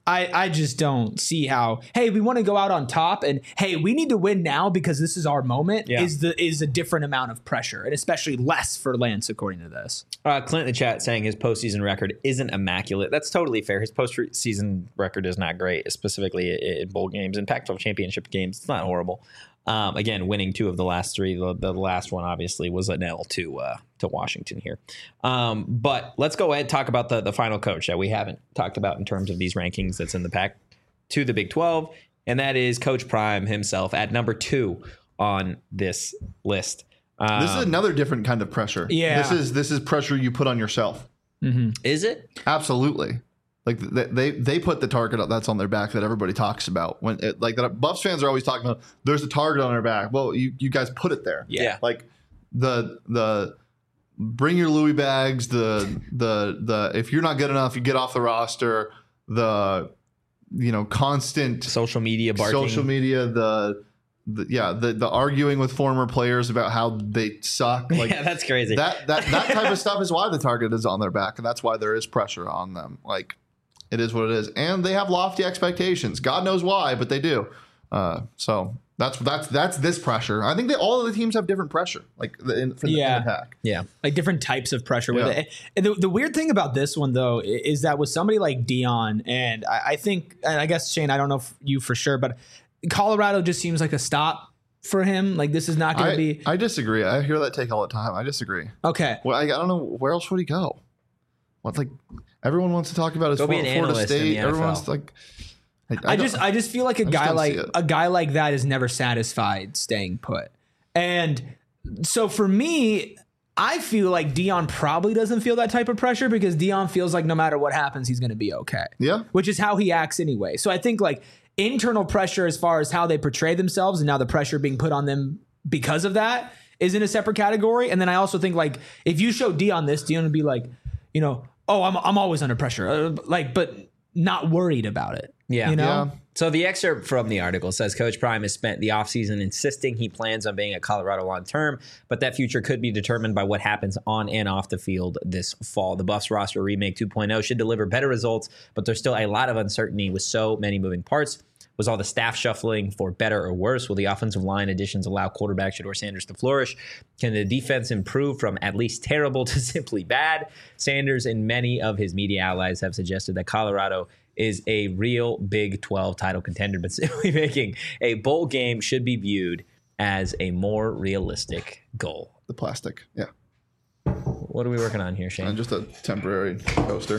I, I just don't see how, hey, we want to go out on top and hey, we need to win now because this is our moment Yeah. is the is a different amount of pressure and especially less for Lance according to this. Uh, Clint in the chat saying his postseason record isn't immaculate. That's totally fair. His postseason record is not great, specifically in bowl games and Pac twelve championship games. It's not horrible. Um, again, winning two of the last three. The, the last one obviously was an L to uh, to Washington here. Um, but let's go ahead and talk about the the final coach that we haven't talked about in terms of these rankings that's in the pack to the Big twelve, and that is Coach Prime himself at number two on this list. Um, This is another different kind of pressure. Yeah. This is this is pressure you put on yourself. is it? Absolutely. Like they, they they put the target up that's on their back that everybody talks about. When it, like that Buffs fans are always talking about there's a target on their back. Well, you, you guys put it there. Yeah. Like the the bring your Louis bags, the the the if you're not good enough, you get off the roster, the you know, constant Social media barking. social media, the the yeah, the the arguing with former players about how they suck. Like yeah, that's crazy. that that that type of stuff is why the target is on their back, and that's why there is pressure on them. Like it is what it is, and they have lofty expectations. God knows why, but they do. Uh, so that's that's that's this pressure. I think that all of the teams have different pressure, like the, in, for the, Yeah. in the pack. yeah. Like different types of pressure with Yeah. it. And the, the weird thing about this one though i- is that with somebody like Dion, and I, I think, and I guess Shane, I don't know if you for sure, but Colorado just seems like a stop for him. Like this is not going to I, be I disagree. I hear that take all the time. I disagree. okay. Well, I, I don't know where else would he go. What like everyone wants to talk about his Go be Florida, an Florida analyst in the State. N F L. Everyone's like, I, I, don't- just I just feel like a just guy don't like see it. a guy like that is never satisfied staying put. And so for me, I feel like Dion probably doesn't feel that type of pressure because Dion feels like no matter what happens, he's going to be okay. Yeah. Which is how he acts anyway. So I think like internal pressure as far as how they portray themselves and now the pressure being put on them because of that is in a separate category. And then I also think like if you show Dion this, Dion would be like, you know, oh, I'm I'm always under pressure. Uh, like, but not worried about it. Yeah. You know? Yeah. So the excerpt from the article says Coach Prime has spent the offseason insisting he plans on being at Colorado long term, but that future could be determined by what happens on and off the field this fall. The Buffs roster remake two point oh should deliver better results, but there's still a lot of uncertainty with so many moving parts. Was all the staff shuffling for better or worse? Will the offensive line additions allow quarterback Shedeur Sanders to flourish? Can the defense improve from at least terrible to simply bad? Sanders and many of his media allies have suggested that Colorado is a real Big twelve title contender, but simply making a bowl game should be viewed as a more realistic goal. The plastic. Yeah. What are we working on here, And Shane? just a temporary coaster.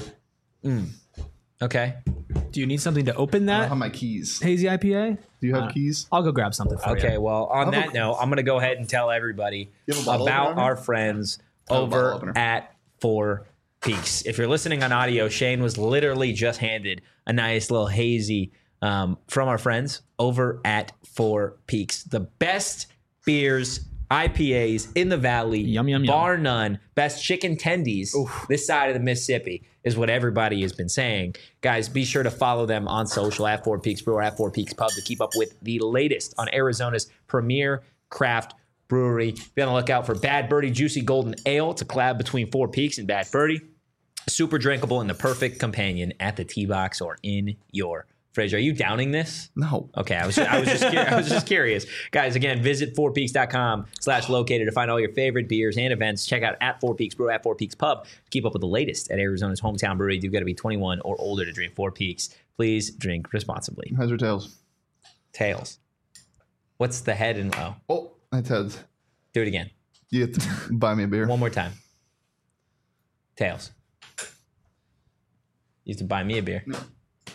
Okay. Do you need something to open I don't that have my keys. hazy I P A? Do you Uh, have keys? I'll go grab something for you. Okay, well, on have a- that note, I'm going to go ahead and tell everybody You have a bottle about opener? our friends have a bottle over opener. at Four Peaks. If you're listening on audio, Shane was literally just handed a nice little hazy um, from our friends over at Four Peaks. The best beers, I P As in the valley, Yum, yum, yum. bar none. Best chicken tendies this side of the Mississippi is what everybody has been saying. Guys, be sure to follow them on social at Four Peaks Brew or at Four Peaks Pub to keep up with the latest on Arizona's premier craft brewery. Be on the lookout for Bad Birdie Juicy Golden Ale. It's a collab between Four Peaks and Bad Birdie. Super drinkable and the perfect companion at the tee box or in your fridge. Are you downing this? No. Okay, I was I was just curious. I was just curious, guys. Again, visit four peaks dot com slash located to find all your favorite beers and events. Check out at Four Peaks Brew at Four Peaks Pub to keep up with the latest at Arizona's hometown brewery. You've got to be twenty-one or older to drink Four Peaks. Please drink responsibly. Heads or tails? Tails. What's the head and oh? Oh, that's heads. Do it again. You have to buy me a beer. One more time. Tails. You have to buy me a beer. No.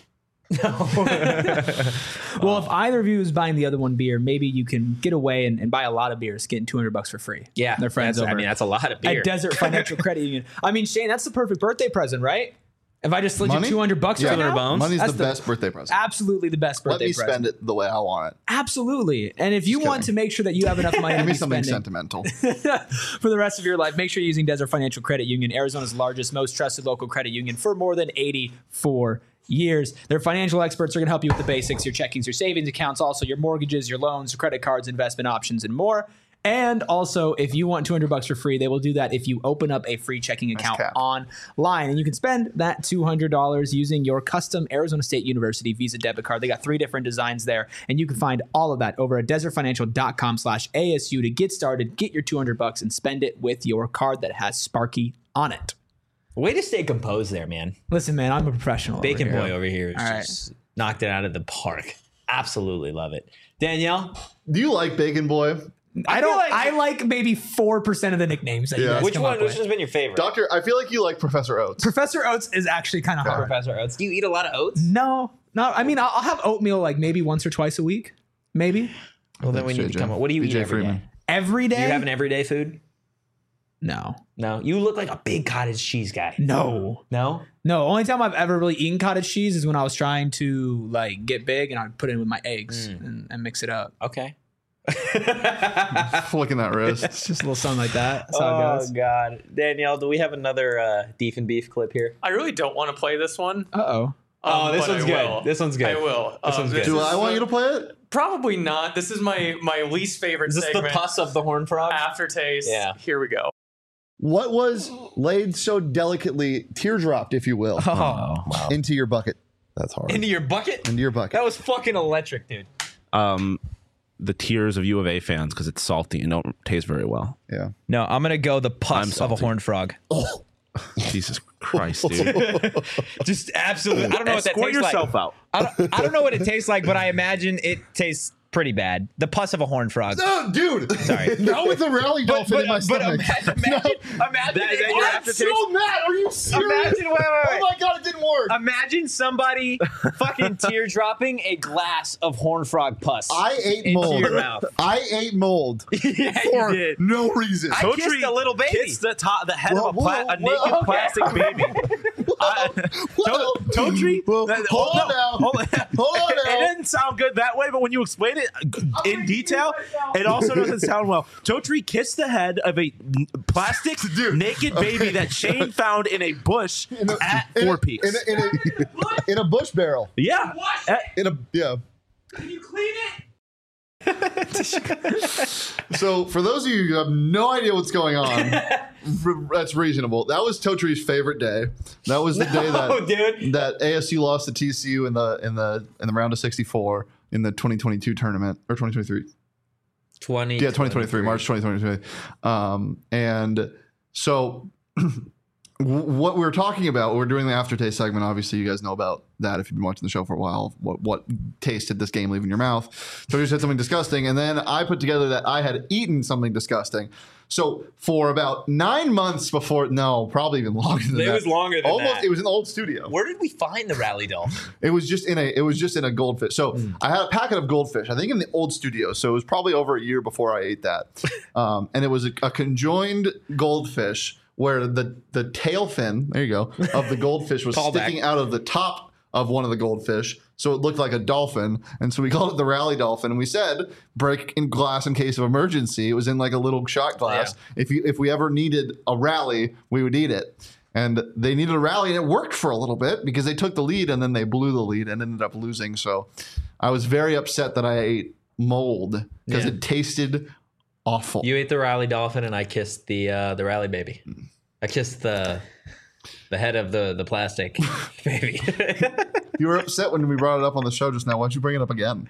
Well, if either of you is buying the other one beer, maybe you can get away and, and buy a lot of beers, getting two hundred bucks for free. Yeah, Their friends that's- over I mean, that's a lot of beer. at Desert Financial Credit Union. I mean, Shane, that's the perfect birthday present, right? If I just slid Money? you two hundred bucks right Yeah. now, bones? Money's that's the best birthday present. Absolutely the best Let birthday me present. spend it the way I want it. Absolutely. And if you Just want kidding. to make sure that you have enough money to Give me be something spending sentimental. for the rest of your life, make sure you're using Desert Financial Credit Union, Arizona's largest, most trusted local credit union for more than eighty-four years. Their financial experts are going to help you with the basics, your checkings, your savings accounts, also your mortgages, your loans, your credit cards, investment options, and more. And also, if you want two hundred bucks for free, they will do that if you open up a free checking account cap. online. And you can spend that two hundred dollars using your custom Arizona State University Visa debit card. They got three different designs there. And you can find all of that over at desertfinancial.com slash ASU to get started, get your two hundred bucks, and spend it with your card that has Sparky on it. Way to stay composed there, man. Listen, man, I'm a professional. Bacon over Boy here. over here All just knocked it out of the park. Absolutely love it. Danielle? Do you like Bacon Boy? I don't. like- I like maybe four percent of the nicknames that you Yeah. guys Which come one? up Which with. has been your favorite? Doctor, I feel like you like Professor Oates. Professor Oates is actually kind of hard. Professor Oates. Do you eat a lot of oats? No, no. I mean, I'll, I'll have oatmeal like maybe once or twice a week, maybe Well, then we need J J. to come up. What do you B J eat every Freeman. day? every Do day. you have an everyday food? no, No. You look like a big cottage cheese guy. no, No? no. Only time I've ever really eaten cottage cheese is when I was trying to like get big, and I'd put it in with my eggs and, and mix it up. Okay. Flicking that wrist. It's just a little something like that. That's how it Oh, goes. God. Danielle, do we have another uh, Deef and Beef clip here? I really don't want to play this one. Uh oh. Oh, um, this but one's I good. will. This one's good. I will. This Um, one's good. Do is I want the- you to play it? Probably not. This is my my least favorite Is this the segment. pus of the horn frog? Aftertaste. Yeah. Here we go. What was laid so delicately, teardropped, if you will, Oh. into your bucket? That's hard. Into your bucket? Into your bucket. That was fucking electric, dude. Um, the tears of U of A fans because it's salty and don't taste very well. Yeah. No, I'm going to go the I'm pus of a salty. horned frog. Jesus Christ, dude. Just absolutely. I don't know what that Escort tastes like. yourself out. I don't, I don't know what it tastes like, but I imagine it tastes pretty bad. The pus of a horned frog. No, dude. Sorry. Not with the rally But, dolphin but, in my but stomach. imagine, imagine, imagine, That- is that it- your I'm aftertaste? So mad. Are you serious? Imagine, wait, wait, Oh wait. my god, it didn't work. Imagine somebody fucking teardropping a glass of horned frog pus. I ate into mold. your mouth. I ate mold Yeah, for you did. no reason. I kissed a little baby. It's the top, the head Whoa, of a, pla- whoa, a whoa, naked okay. plastic baby. I- Well, To- Totri? well, that- hold on no, now. hold on. Hold on It, it now. didn't sound good that way, but when you explain it in detail, it also doesn't sound well. Totri kissed the head of a n- plastic Dude, naked baby that Shane found in a bush In a- at in a- Four Peaks. In a, in a, in a bush barrel. yeah. Uh, In a yeah. Can you clean it? So for those of you who have no idea what's going on, r- that's reasonable. That was Totri's favorite day. That was the day No, that dude. that A S U lost to T C U in the in the in the round of sixty-four in the twenty twenty-two tournament or twenty twenty-three. twenty. Yeah, twenty twenty-three, March twenty twenty-three. Um, and so what we were talking about, we're doing the aftertaste segment. Obviously, you guys know about that if you've been watching the show for a while. What what taste did this game leave in your mouth? So you said something disgusting, and then I put together that I had eaten something disgusting. So for about nine months before, no, probably even longer than It that. was longer than Almost, that. it was in the old studio. Where did we find the rally dolphin? It was just in a it was just in a goldfish. So I had a packet of goldfish, I think in the old studio. So it was probably over a year before I ate that. Um, and it was a, a conjoined goldfish where the the tail fin, there you go, of the goldfish was Callback. sticking out of the top of one of the goldfish. So it looked like a dolphin. And so we called it the rally dolphin. And we said break in glass in case of emergency. It was in like a little shot glass. If you if we ever needed a rally, we would eat it. And they needed a rally, and it worked for a little bit because they took the lead and then they blew the lead and ended up losing. So I was very upset that I ate mold because Yeah. it tasted awful. You ate the rally dolphin, and I kissed the uh, the rally baby. I kissed the the head of the the plastic baby. You were upset when we brought it up on the show just now. Why'd you bring it up again?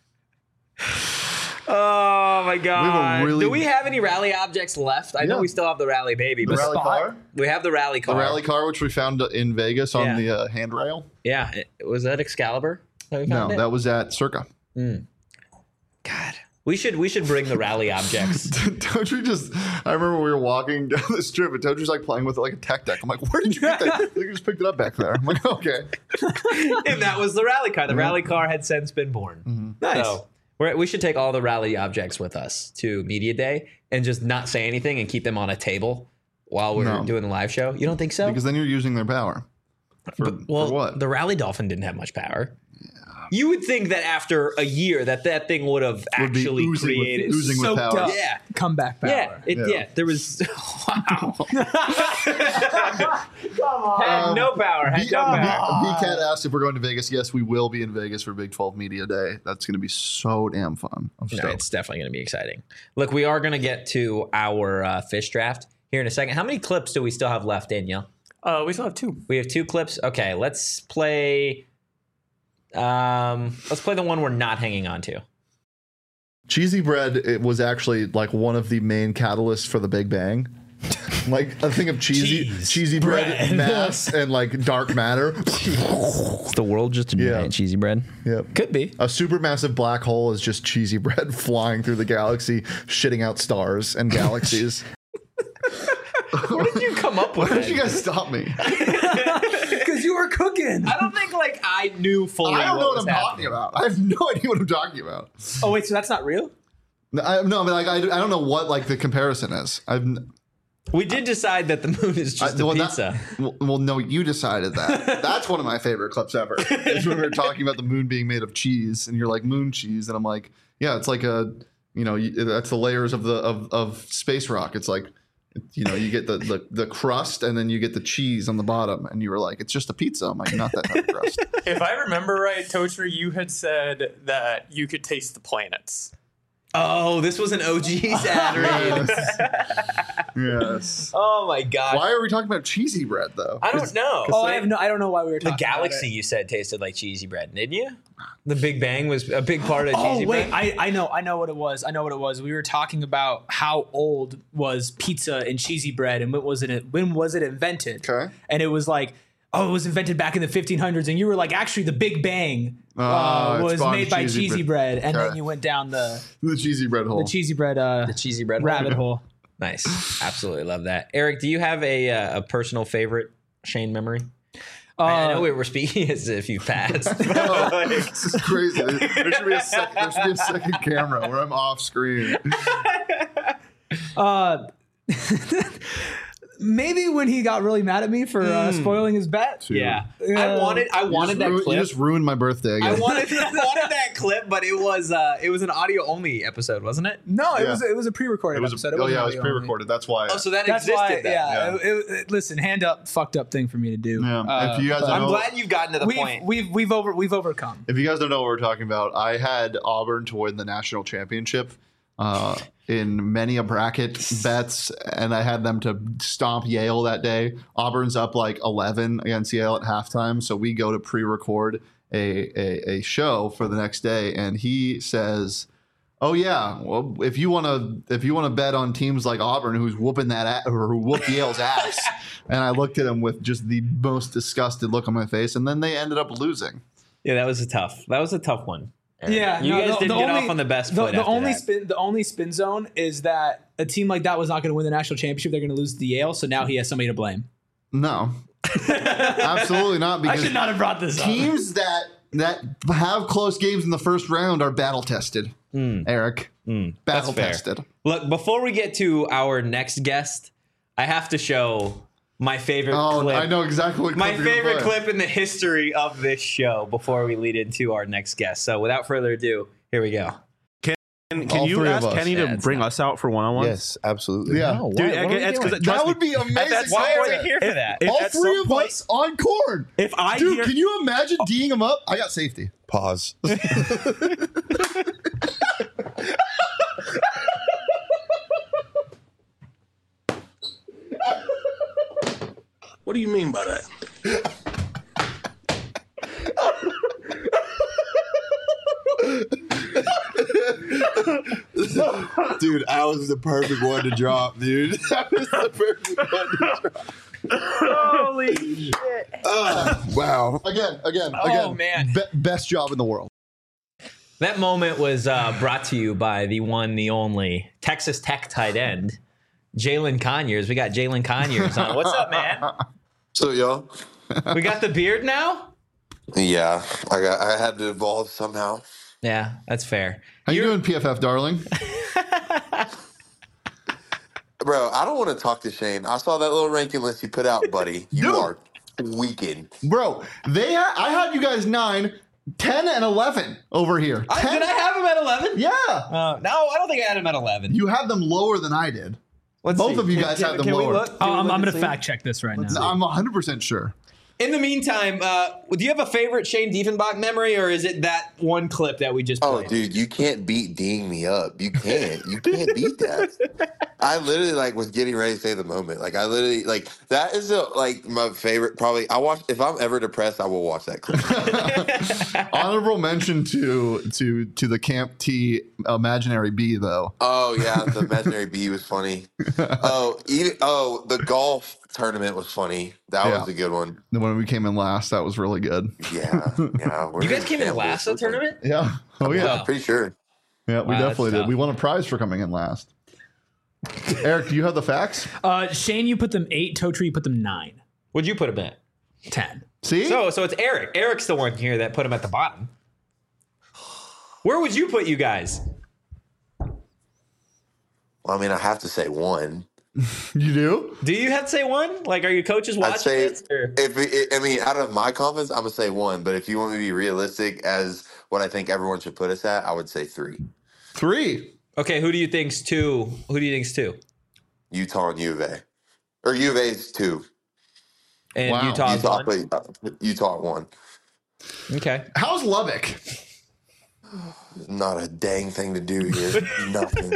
Oh my god! really- Do we have any rally objects left? I know Yeah. we still have the rally baby, The but rally car? we have the rally The car. rally car, which we found in Vegas on Yeah. the uh, handrail. Yeah, it- was that Excalibur? That we No, found it? that was at Circa. God. We should we should bring the rally objects. Totri just, I remember we were walking down the strip and Totri's like playing with it like a tech deck. I'm like, where did you get that? You just picked it up back there. I'm like, okay. And that was the rally car. The rally car had since been born. Nice. So we're, we should take all the rally objects with us to Media Day and just not say anything and keep them on a table while we're No. doing the live show. You don't think so? Because then you're using their power. For, But- well, for what? the rally dolphin didn't have much power. You would think that after a year that that thing would have Would be actually oozing with- created. oozing with Soaked power. up. Yeah. Comeback power. Yeah, it, yeah. Yeah. There was. Wow. Had no power. Had B- no power. B- B-Cat asked if we're going to Vegas. Yes, we will be in Vegas for Big twelve Media Day. That's going to be so damn fun. I'm No, stoked. it's definitely going to be exciting. Look, we are going to get to our uh, fish draft here in a second. How many clips do we still have left, Danielle? Uh, we still have two. We have two clips. Okay, let's play. Um, let's play the one we're not hanging on to. Cheesy bread, it was actually like one of the main catalysts for the Big Bang. Like a thing of cheesy, Cheese, cheesy bread, bread. mass, and like dark matter. Is the world just a Yeah. giant cheesy bread? Yep. Could be. A supermassive black hole is just cheesy bread flying through the galaxy, shitting out stars and galaxies. Where did you come up with Why that? did you guys stop me? Because you were cooking. I don't think like I knew fully. I don't know what was I'm happening. talking about. I have no idea what I'm talking about. Oh wait, so that's not real? No, I, no, but like I, I don't know what like the comparison is. I've n- We did decide that the moon is just I- a well, that- pizza. well, well, no, you decided that. That's one of my favorite clips ever. Is when we were talking about the moon being made of cheese, and you're like moon cheese, and I'm like, yeah, it's like a, you know, you, that's the layers of the of, of space rock. It's like, you know, you get the, the the crust, and then you get the cheese on the bottom, and you were like, it's just a pizza. I'm like, not that type of crust. If I remember right, Toaster, you had said that you could taste the planets. Oh, this was an O G's ad read. Yes. Oh my god. Why are we talking about cheesy bread though? I don't know. Oh, I have no. I don't know why we were The talking galaxy about it. you said tasted like cheesy bread, didn't you? The Big Bang was a big part of Oh cheesy wait, bread. I, I know I know what it was. I know what it was. We were talking about how old was pizza and cheesy bread, and when was it when was it invented? Okay. And it was like, oh, it was invented back in the fifteen hundreds, and you were like, actually, the Big Bang Oh, uh, it was spawned made by cheesy cheesy bread. bread, and Okay. then you went down the The cheesy bread hole. the cheesy bread uh, the cheesy bread rabbit hole. Nice. Absolutely love that. Eric, do you have a uh, a personal favorite Shane memory? Uh, I I know we were speaking as if you passed. Oh, this is crazy. There there should be a sec- there should be a second camera where I'm off screen. Uh, maybe when he got really mad at me for uh, spoiling his bet. Yeah, Uh, I wanted I You just wanted that ruined- clip. You just ruined my birthday I again. wanted I wanted that clip, but it was uh it was an audio only episode, wasn't it? No, it Yeah. was it was a pre-recorded It was episode. a, oh wasn't yeah, it was audio only. pre-recorded. That's why. Oh, so that That's existed. why, then. yeah. Yeah. It, it- it- listen, hand up, fucked up thing for me to do. Yeah. Uh, If you guys but don't I'm know- glad you've gotten to the we've, point. we've we've over we've overcome. If you guys don't know what we're talking about, I had Auburn to win the national championship uh, in many a bracket bets, and I had them to stomp Yale that day. Auburn's up like eleven against Yale at halftime, so we go to pre-record a, a, a show for the next day, and he says, "Oh yeah, well if you want to if you want to bet on teams like Auburn, who's whooping that a- or who whooped Yale's ass," and I looked at him with just the most disgusted look on my face, and then they ended up losing. Yeah, that was a tough. That was a tough one. Yeah, you no, guys the- didn't the get only- off on the best The, foot. the after only that. spin the only spin zone is that a team like that was not going to win the national championship. They're going to lose to Yale, so now he has somebody to blame. No, absolutely not. I Because should not have brought this up. teams that that have close games in the first round are battle tested. Eric, battle That's fair. tested. Look, before we get to our next guest, I have to show my favorite Oh, clip. I know exactly what My clip you're gonna favorite play. clip in the history of this show before we lead into our next guest. So without further ado, here we go. Can, All can you three of ask us. Kenny Yeah, to it's bring not- us out for one on one? Yes, absolutely. Yeah, Oh, Dude, what, what are we it's doing? because that would be amazing. that's Why are content. we here for that? If All at three some of point- us on corn. If I Dude, hear, can you imagine D'ing him up? I got safety. Pause. What do you mean by that? Dude, I was the perfect one to drop, dude. That was the perfect one to drop. Holy shit. Oh, wow. Again, again, Oh, again. man. Be- best job in the world. That moment was uh, brought to you by the one, the only Texas Tech tight end, Jalen Conyers. We got Jalen Conyers on. What's up, man? So y'all, We got the beard now? yeah, I got I had to evolve somehow. Yeah, that's fair. How you You're- doing, P F F, darling? Bro, I don't want to talk to Shane. I saw that little ranking list you put out, buddy. You Dude. are weakened. Bro, they ha- I had you guys nine. ten and eleven over here. I, ten did I have him at eleven? Yeah. Uh, no, I don't think I had him at eleven. You have them lower than I did. Let's Both see. of you Can- guys can- have them can we lower. look? Oh, Can we I'm, look I'm and going to see? fact check this right now. I'm one hundred percent sure. In the meantime, uh, do you have a favorite Shane Diefenbach memory, or is it that one clip that we just Oh, played? dude, you can't beat D'ing me up. You can't. You can't beat that. I literally like was getting ready to say the moment. Like I literally like that is a, like my favorite. Probably I watch if I'm ever depressed, I will watch that clip. Honorable mention to to to the Camp T imaginary bee though. Oh yeah, the imaginary bee was funny. Oh, even, oh, the golf tournament was funny. That Yeah. was a good one. The one we came in last, that was really good. Yeah, yeah. we're You guys in came in shambles. last at the tournament? Yeah. Oh yeah. Wow. Pretty sure. Yeah, we Wow, definitely that's did. tough. We won a prize for coming in last. Eric, do you have the facts? Uh, Shane, you put them eight. Totri, you put them nine. Would you put him at? ten. See? So, so it's Eric. Eric's the one here that put him at the bottom. Where would you put you guys? Well, I mean, I have to say one. You do? Do you have to say one? Like, are your coaches watching I'd say this? Or? if it, I mean, out of my confidence, I'm gonna say one. But if you want me to be realistic as what I think everyone should put us at, I would say three. Three. Okay, who do you think's two? Who do you think's two? Utah and U of A, or U of A's two. And Wow. Utah's Utah, one. played, uh, Utah at one. Okay. How's Lubbock? Not a dang thing to do here. Nothing.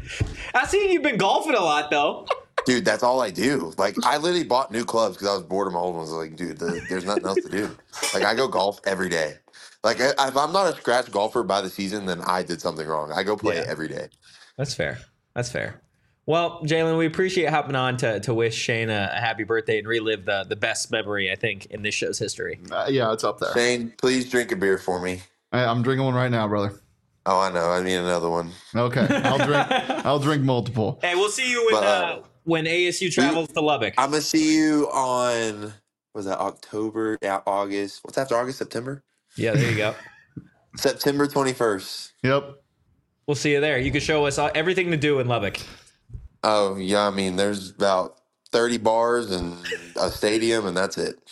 I see you've been golfing a lot though. Dude, that's all I do. Like, I literally bought new clubs because I was bored of my old ones. I was like, dude, the, there's nothing else to do. Like, I go golf every day. Like, I, if I'm not a scratch golfer by the season, then I did something wrong. I go play Yeah. every day. That's fair. That's fair. Well, Jalen, we appreciate hopping on to, to wish Shane a, a happy birthday and relive the, the best memory, I think, in this show's history. Uh, yeah, it's up there. Shane, please drink a beer for me. I, I'm drinking one right now, brother. Oh, I know. I need another one. Okay, I'll drink. I'll drink multiple. Hey, we'll see you when But, uh, uh, when A S U travels to Lubbock. I'm going to see you on, was that October, yeah, August? What's after August? September? Yeah, there you go. September twenty-first. Yep. We'll see you there. You can show us all, everything to do in Lubbock. Oh, yeah. I mean, there's about thirty bars and a stadium, and that's it.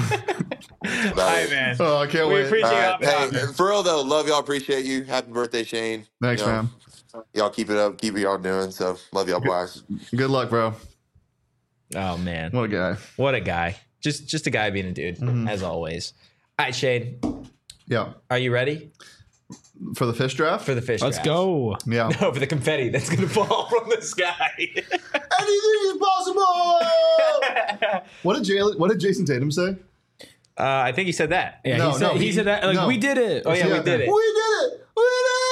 That's about it. man. Oh, I can't We wait. appreciate All you right. hopping on, Hey, man. for real though, love y'all. Appreciate you. Happy birthday, Shane. Thanks, You know, man. Y'all keep it up. Keep what y'all doing. So love y'all, boys. Good luck, bro. Oh, man. What a guy. What a guy. Just just a guy being a dude, as always. All right, Shane, Yeah. are are you ready For the fish draft? for the fish Let's draft? go. yeah. No, for the confetti that's going to fall from the sky. Anything is possible. What did Jalen? What did Jason Tatum say? Uh, I think he said that. Yeah, No, he, said, no, he, he- said that. Like, no. we did it. Oh, yeah, we did it. We did it. We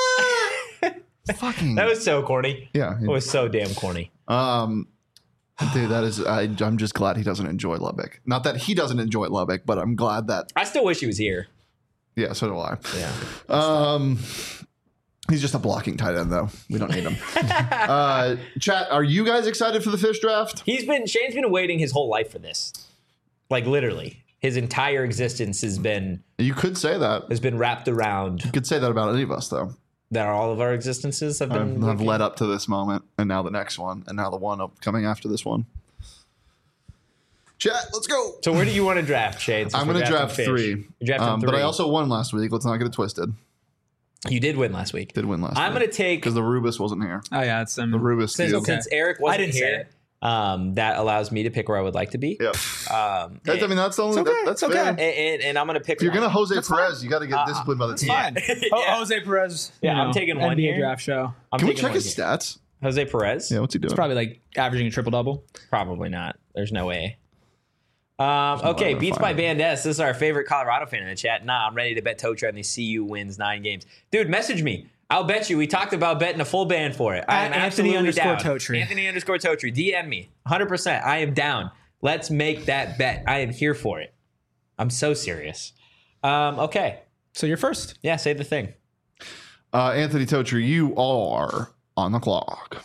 did it. Fucking. That was so corny. yeah. It was so damn corny. Um, dude, that is. I, I'm just glad he doesn't enjoy Lubbock. Not that he doesn't enjoy Lubbock, but I'm glad that. I still wish he was here. Yeah, so do I. Yeah. Um, he's just a blocking tight end, though. We don't need him. uh, chat, are you guys excited for the fish draft? He's been Shane's been waiting his whole life for this. Like literally. His entire existence has been You could say that. has been wrapped around You could say that about any of us, though. that all of our existences have been I've, I've led up to this moment, and now the next one, and now the one up coming after this one. Chat, let's go. So where do you want to draft, Shane? since I'm we're going to drafting draft fish? three. You're drafting Um, three. But I also won last week. Let's not get it twisted. You did win last week. Did win last I'm week. going to take Because the Rubus wasn't here. Oh, yeah. It's um, The Rubus since, deal. since Eric wasn't didn't say here. Um, that allows me to pick where I would like to be. Yep. Um, That's, I mean, that's the only. okay, that, that's it's okay. fair. and, and, and I'm going to pick. If you're one. gonna Jose Perez, you got to get Uh, disciplined by the team. fine. Yeah. Ho- Jose Perez. Yeah, you I'm know, taking one N B A here. draft show. I'm Can we taking check one his here. stats? Jose Perez? Yeah, what's he doing? It's probably like averaging a triple double. Probably not. There's no way. Um, no okay, way to Beats by find it. Band S. This is our favorite Colorado fan in the chat. Nah, I'm ready to bet Totra on the C U wins nine games. Dude, message me. I'll bet you. We talked about betting a full band for it. I am At Anthony absolutely underscore down. Totri. Anthony underscore Totri. D M me. one hundred percent. I am down. Let's make that bet. I am here for it. I'm so serious. Um, okay. So you're first. Yeah, say the thing. Uh, Anthony Totri, you are on the clock.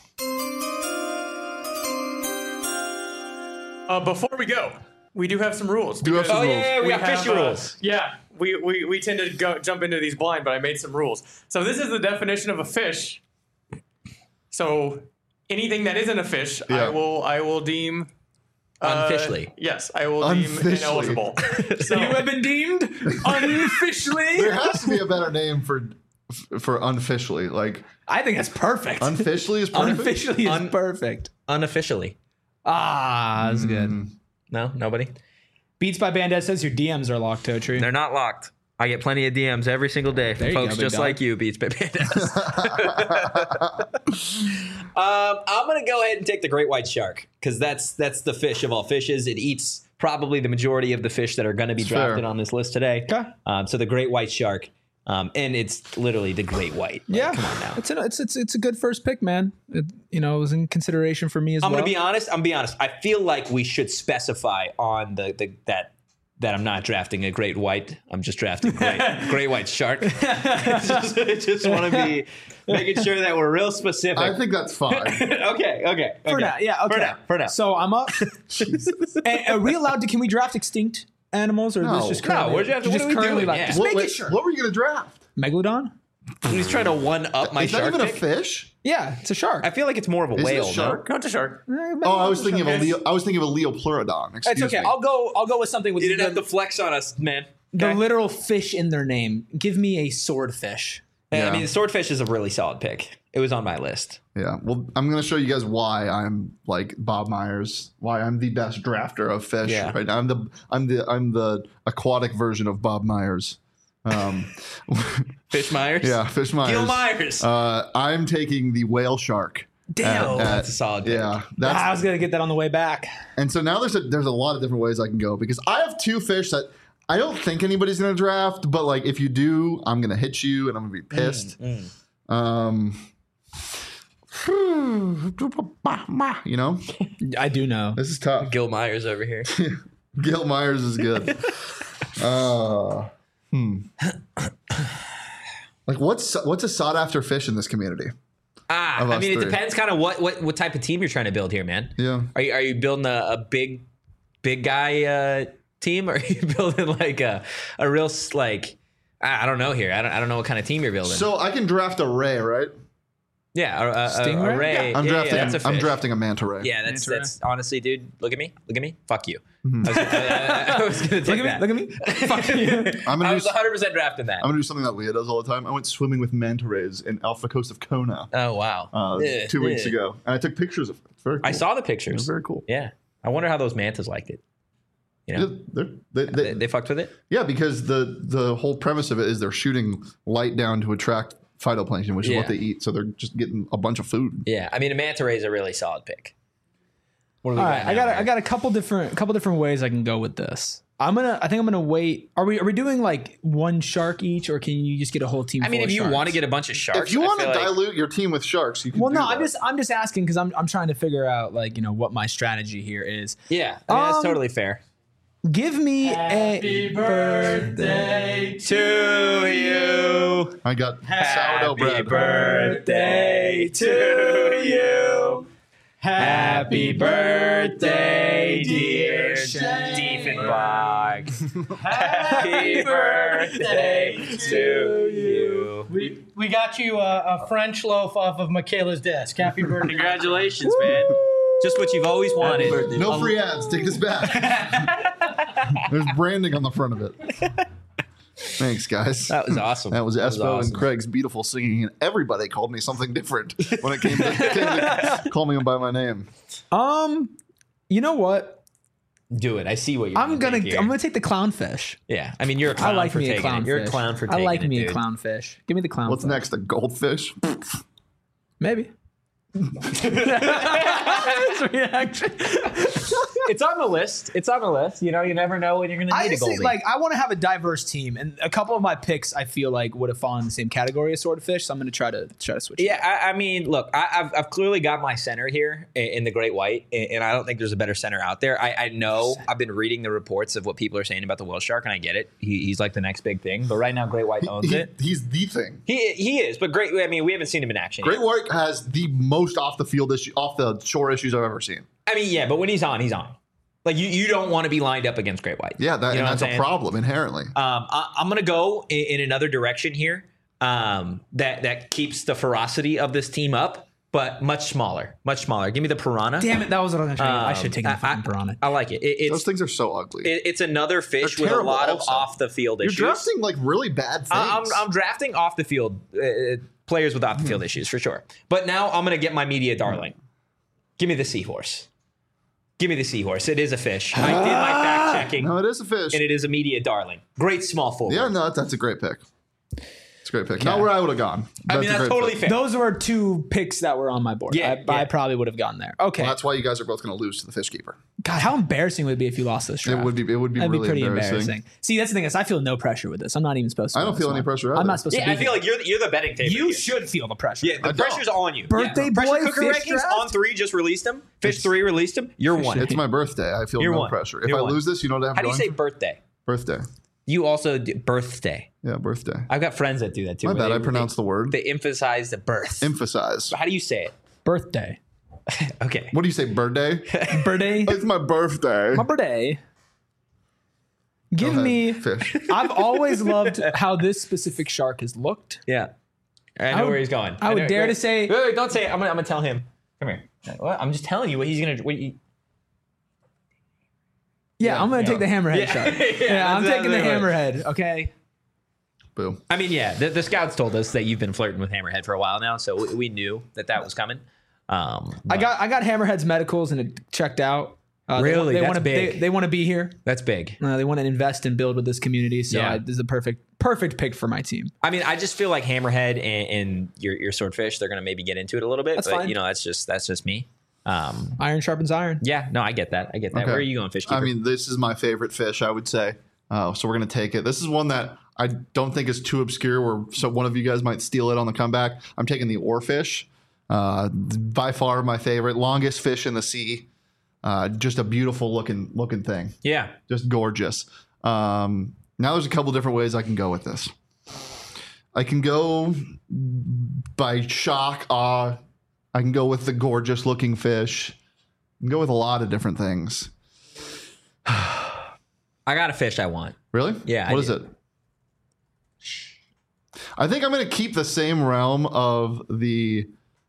Uh, before we go, we do have some rules. Do have because some Oh, yeah, yeah, we, got have, fishy uh, rules. Yeah, we, we, we tend to go, jump into these blind, but I made some rules. So this is the definition of a fish. So anything that isn't a fish, Yeah. I will I will deem Unofficially. Uh, yes, I will deem Unofficially. ineligible. So, You have been deemed unofficially. There has to be a better name for for unofficially. Like I think that's perfect. unofficially is perfect. Unofficially is Un- perfect. Unofficially. Ah, that's good. No, nobody. Beats by Bandit says your D Ms are locked, Totri. They're not locked. I get plenty of D Ms every single day from There you folks go, big just dog. like you, Beats by Bandas. um, I'm gonna go ahead and take the great white shark because that's that's the fish of all fishes. It eats probably the majority of the fish that are going to be It's drafted fair. on this list today. Okay. Um, so the great white shark, um, and it's literally the great white. Like, Yeah, come on now. It's, an, it's it's it's a good first pick, man. It, you know, it was in consideration for me as I'm well. gonna be honest. I'm gonna be honest. I feel like we should specify on the, the that that I'm not drafting a great white. I'm just drafting great great white shark. just just want to be making sure that we're real specific. I think that's fine. okay, okay, For okay. now, yeah, okay. For now, for now. So I'm up. And are we allowed to? Can we draft extinct animals, or No. this just No, currently, we're drafting- what just are we currently doing? like Yeah. just what, making wait, sure? what were you gonna draft? Megalodon? He's trying to one up my Is that shark even pick. a fish? Yeah, it's a shark. I feel like it's more of a Is it a whale. shark? no, it's a shark. Oh, I was thinking of a Leo. I was thinking of a Leopleurodon. Excuse It's okay. me. I'll go. I'll go with something with You didn't the, have to flex on us, man. the Okay? literal fish in their name. Give me a swordfish. Yeah, Yeah. I mean, the swordfish is a really solid pick. It was on my list. Yeah. Well, I'm gonna show you guys why I'm like Bob Myers. Why I'm the best drafter of fish. Yeah. Right now, I'm the I'm the I'm the aquatic version of Bob Myers. Um, Fish Myers? yeah, Fish Myers. Gil Myers. Uh, I'm taking the whale shark. Damn, at- that's at- a solid pick. Yeah, that's Ah, I was gonna get that on the way back. And so now there's a there's a lot of different ways I can go because I have two fish that I don't think anybody's gonna draft, but like if you do, I'm gonna hit you and I'm gonna be pissed. Um, you know, I do know. this is tough. Gil Myers over here. Gil Myers is good. Uh, hmm. Like what's what's a sought after fish in this community? Ah, Of I us mean, it three. depends kind of what, what what type of team you're trying to build here, man. Yeah. Are you are you building a, a big big guy uh, team, or are you building like a a real s- like I I don't know here. I don't I don't know what kind of team you're building. So I can draft a ray, right? yeah, a, a, a, Stingray? a ray. I'm yeah, drafting. Yeah, that's a I'm fish. drafting a manta ray. Yeah, that's Manta ray. that's honestly, dude. Look at me. Look at me. Fuck you. Mhm. I was, I, I was gonna take Look at that. me. Look at me. Fuck you. I'm gonna I do was s- one hundred percent drafting that. I'm gonna do something that Leah does all the time. I went swimming with manta rays in off the coast of Kona Oh wow. uh, Yeah, two weeks yeah. ago, and I took pictures of it. It's very cool. I saw the It was pictures. very cool. Yeah. I wonder how those mantas liked it. You Yeah, know, they're- they, they, they, they fucked with it. yeah, because the the whole premise of it is they're shooting light down to attract phytoplankton, which is Yeah. what they eat. So they're just getting a bunch of food. Yeah, I mean, a manta ray is a really solid pick. What do we All got right, now, I got a, man? I got a couple different couple different ways I can go with this. I'm gonna I think I'm gonna wait. Are we are we doing like one shark each, or can you just get a whole team? I mean, full if of you sharks? want to get a bunch of sharks, If you I want to feel like- dilute your team with sharks, you can. Well, do no, that. I'm just I'm just asking because I'm I'm trying to figure out like you know what my strategy here is. yeah, I mean, that's Um, totally fair. Give me a birthday to you. I got sourdough bread. birthday to you. Happy birthday, dear Diefenbach. Happy birthday to you. We, we got you a, a French loaf off of Michaela's desk. Happy birthday. Congratulations, man. Just what you've always wanted. No free ads. Take this back. There's branding on the front of it. Thanks, guys. That was awesome. That was That was Espo awesome. and Craig's beautiful singing, and everybody called me something different when it came to, came to call me by my name. um. You know what? Do it. I see what you're I'm gonna take here. I'm gonna take the clownfish. Yeah, I mean, you're a I clown like for me a taking it. You're a clownfish. clown for I taking like it, me a dude. clownfish. Give me the clownfish. What's next? A goldfish? Maybe. His reaction. It's on the list. It's on the list. You know, you never know when you're going to I need a just goldie. think, like I want to have a diverse team, and a couple of my picks I feel like would have fallen in the same category as swordfish. So I'm going to try to try to switch. it yeah, I, I mean, look, I, I've, I've clearly got my center here in, in the Great White, and, and I don't think there's a better center out there. I, I know I've been reading the reports of what people are saying about the whale shark, and I get it. He, he's like the next big thing, but right now Great White owns He- it. he's the thing. He he is, but great. I mean, we haven't seen him in action. Great yet. White has the most off the field issue, off the shore issues I've ever seen. I mean, yeah, but when he's on, he's on. Like you, you don't want to be lined up against Great White. Yeah, that, You know and what that's I'm a saying? problem inherently. Um, I, I'm going to go in, in another direction here um, that that keeps the ferocity of this team up. but much smaller. Much smaller. Give me the piranha. Damn it, that was what I was going to try to get. I should have taken the Um, fucking piranha. I like it. it it's, Those things are so ugly. it- it's another fish They're with a terrible lot of also. off the field You're issues. drafting like really bad things. I- I'm, I'm drafting off the field uh, players with off the field Hmm. issues for sure. But now I'm going to get my media darling. Give me the seahorse. Give me the seahorse. It is a fish. I did my fact checking. No, it is a fish. And it is a media darling. Great small forward. Yeah, no, that's a great pick. It's a great pick. Not where I would have gone. I mean, a that's great totally pick. fair. Those were two picks that were on my board. Yeah, I, I yeah. probably would have gone there. Okay. Well, that's why you guys are both going to lose to the fish keeper. God, how embarrassing would it be if you lost this draft? It would be. It would be That'd really be pretty embarrassing. embarrassing. See, that's the thing is, I feel no pressure with this. I'm not even supposed to. I win don't feel this any one. pressure I'm either. not supposed Yeah, to. I Be feel here. like you're the, you're the betting favorite. you here. should feel the pressure. Yeah, the I don't. pressure's on you. Birthday yeah. boy Pressure Cooker fish rankings draft? on three just released them. Fish three released them. You're one. It's my birthday. I feel You're no one. pressure. If You're I one. lose this, you know what I'm How do you going say birthday? birthday. You also do birthday. Yeah, birthday. I've got friends that do that too. My where bad. they- I pronounced the word. They emphasize the birth. Emphasize. How do you say it? Birthday. Okay. What do you say? Birthday. Birthday. It's my birthday. My birthday. Give Go ahead. me. Fish. I've always loved how this specific shark has looked. Yeah. I know I would- where he's going. I would know- dare wait, to say- Wait, wait, don't say it. I'm gonna, I'm gonna tell him. Come here. What? I'm just telling you what he's gonna. What you, Yeah, I'm gonna yeah. take the hammerhead Yeah. shark. Yeah, Yeah, I'm that's taking the exactly right. hammerhead. Okay. Boo. I mean, yeah. The, the scouts told us that you've been flirting with Hammerhead for a while now, so we, we knew that that was coming. Um, I got I got hammerhead's medicals and it checked out. Uh, Really? They, That's want to big. They, they want to be here. that's big. Uh, they want to invest and build with this community. So Yeah. I, this is a perfect perfect pick for my team. I mean, I just feel like Hammerhead and, and your your swordfish, they're gonna maybe get into it a little bit, That's but fine. you know, that's just that's just me. Um, Iron sharpens iron. yeah, no, I get that. I get that. Okay. Where are you going, Fishkeeper? I mean, this is my favorite fish, I would say. Uh, so we're going to take it. This is one that I don't think is too obscure where so one of you guys might steal it on the comeback. I'm taking the oarfish. Uh, by far my favorite. Longest fish in the sea. Uh, just a beautiful looking looking thing. yeah. Just gorgeous. Um, now there's a couple different ways I can go with this. I can go by shock, awe. I can go with the gorgeous looking fish. I can go with a lot of different things. I got a fish I want. Really? Yeah, What I is do. it? I think I'm going to keep the same realm of the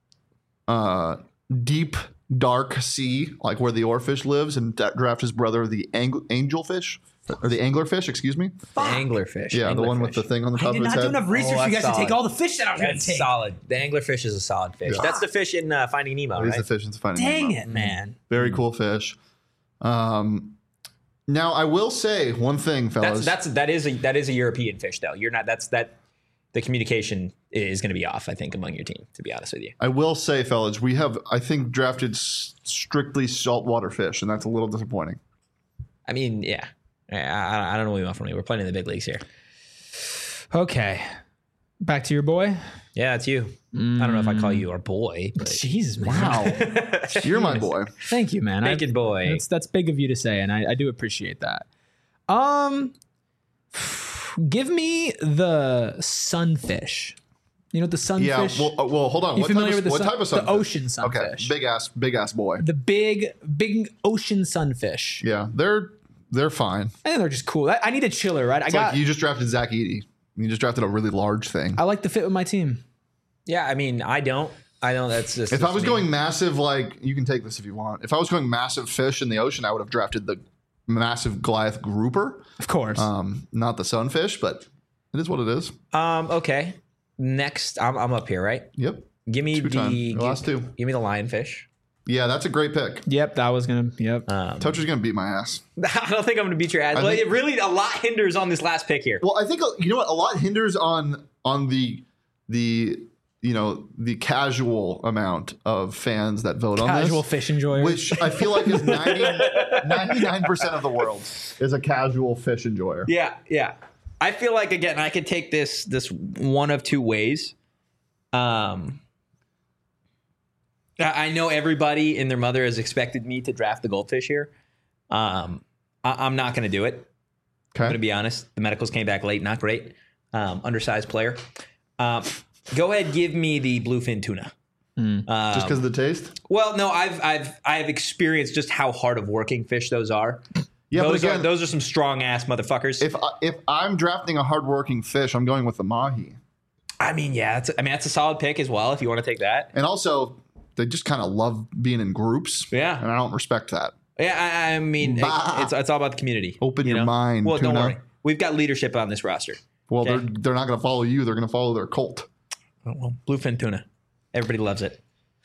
uh, deep, dark sea, like where the oarfish lives, and da- draft his brother, the ang- angelfish, or the anglerfish, excuse me. The anglerfish. Yeah, the one with the thing on the I top did of his not do head. enough research Oh, for you that's guys to take solid. all the fish that I was going to That's take. solid. The anglerfish is a solid fish. Yeah. That's the fish in uh, Finding Nemo, He's right? the fish. It's finding Dang Nemo. it, man. Very cool fish. Um, now I will say one thing, fellas. That's that's that is a that is a European fish though. You're not. That's that. The communication is going to be off, I think, among your team. To be honest with you. I will say, fellas, we have I think drafted s- strictly saltwater fish, and that's a little disappointing. I mean, yeah. I, I, I don't know what you want from me. We're playing in the big leagues here. Okay. Back to your boy. Yeah, it's you. I don't know if I call you our boy. But Jesus, wow. You're my boy. Thank you, man. I- Naked boy. That's that's big of you to say, and I, I do appreciate that. Um, give me the sunfish. You know what the sunfish? Yeah. Well, uh, well, hold on. You What familiar type, with of, the what sun- type of the sunfish? ocean Okay, sunfish? big ass, big ass boy. The big, big ocean sunfish. Yeah, they're they're fine. I think they're just cool. I, I need a chiller, right? I It's got. like you just drafted Zach Eady. You just drafted a really large thing. I like the fit with my team. Yeah, I mean, I don't. I don't. That's just. If I was me. going massive, like you can take this if you want. If I was going massive fish in the ocean, I would have drafted the massive Goliath grouper. Of course. Um, not the sunfish, but it is what it is. Um. Okay. Next, I'm I'm up here, right? Yep. Give me Two the time. give, Last two. Give me the lionfish. Yeah, that's a great pick. Yep, that was gonna. Yep. Um, Toucher's gonna beat my ass. I don't think I'm going to beat your ass. I Well, think- it really a lot hinders on this last pick here. Well, I think you know what. A lot hinders on on the the you know the casual amount of fans that vote on Casual this, fish enjoyers. which I feel like is ninety-nine percent of the world is a casual fish enjoyer. Yeah, yeah. I feel like again, I could take this this one of two ways. Um, I I know everybody and their mother has expected me to draft the goldfish here. Um, I, I'm not going to do it. I'm going to Okay. be honest. The medicals came back late, not great. Um, undersized player. Um, go ahead, give me the bluefin tuna. Um, Just because of the taste? well, no, I've I've I've experienced just how hard of working fish those are. Yeah, those but again, are those are some strong ass motherfuckers. if I, if I'm drafting a hardworking fish, I'm going with the mahi. I mean, yeah, that's, I mean that's a solid pick as well if you want to take that. And also, they just kind of love being in groups. Yeah. And I don't respect that. Yeah, I, I mean, it, Bah. it's it's all about the community. Open you your know? mind, Well, don't tuna. worry. We've got leadership on this roster. Well, Okay. they're they're not going to follow you. They're going to follow their cult. Oh, well, bluefin tuna. Everybody loves it.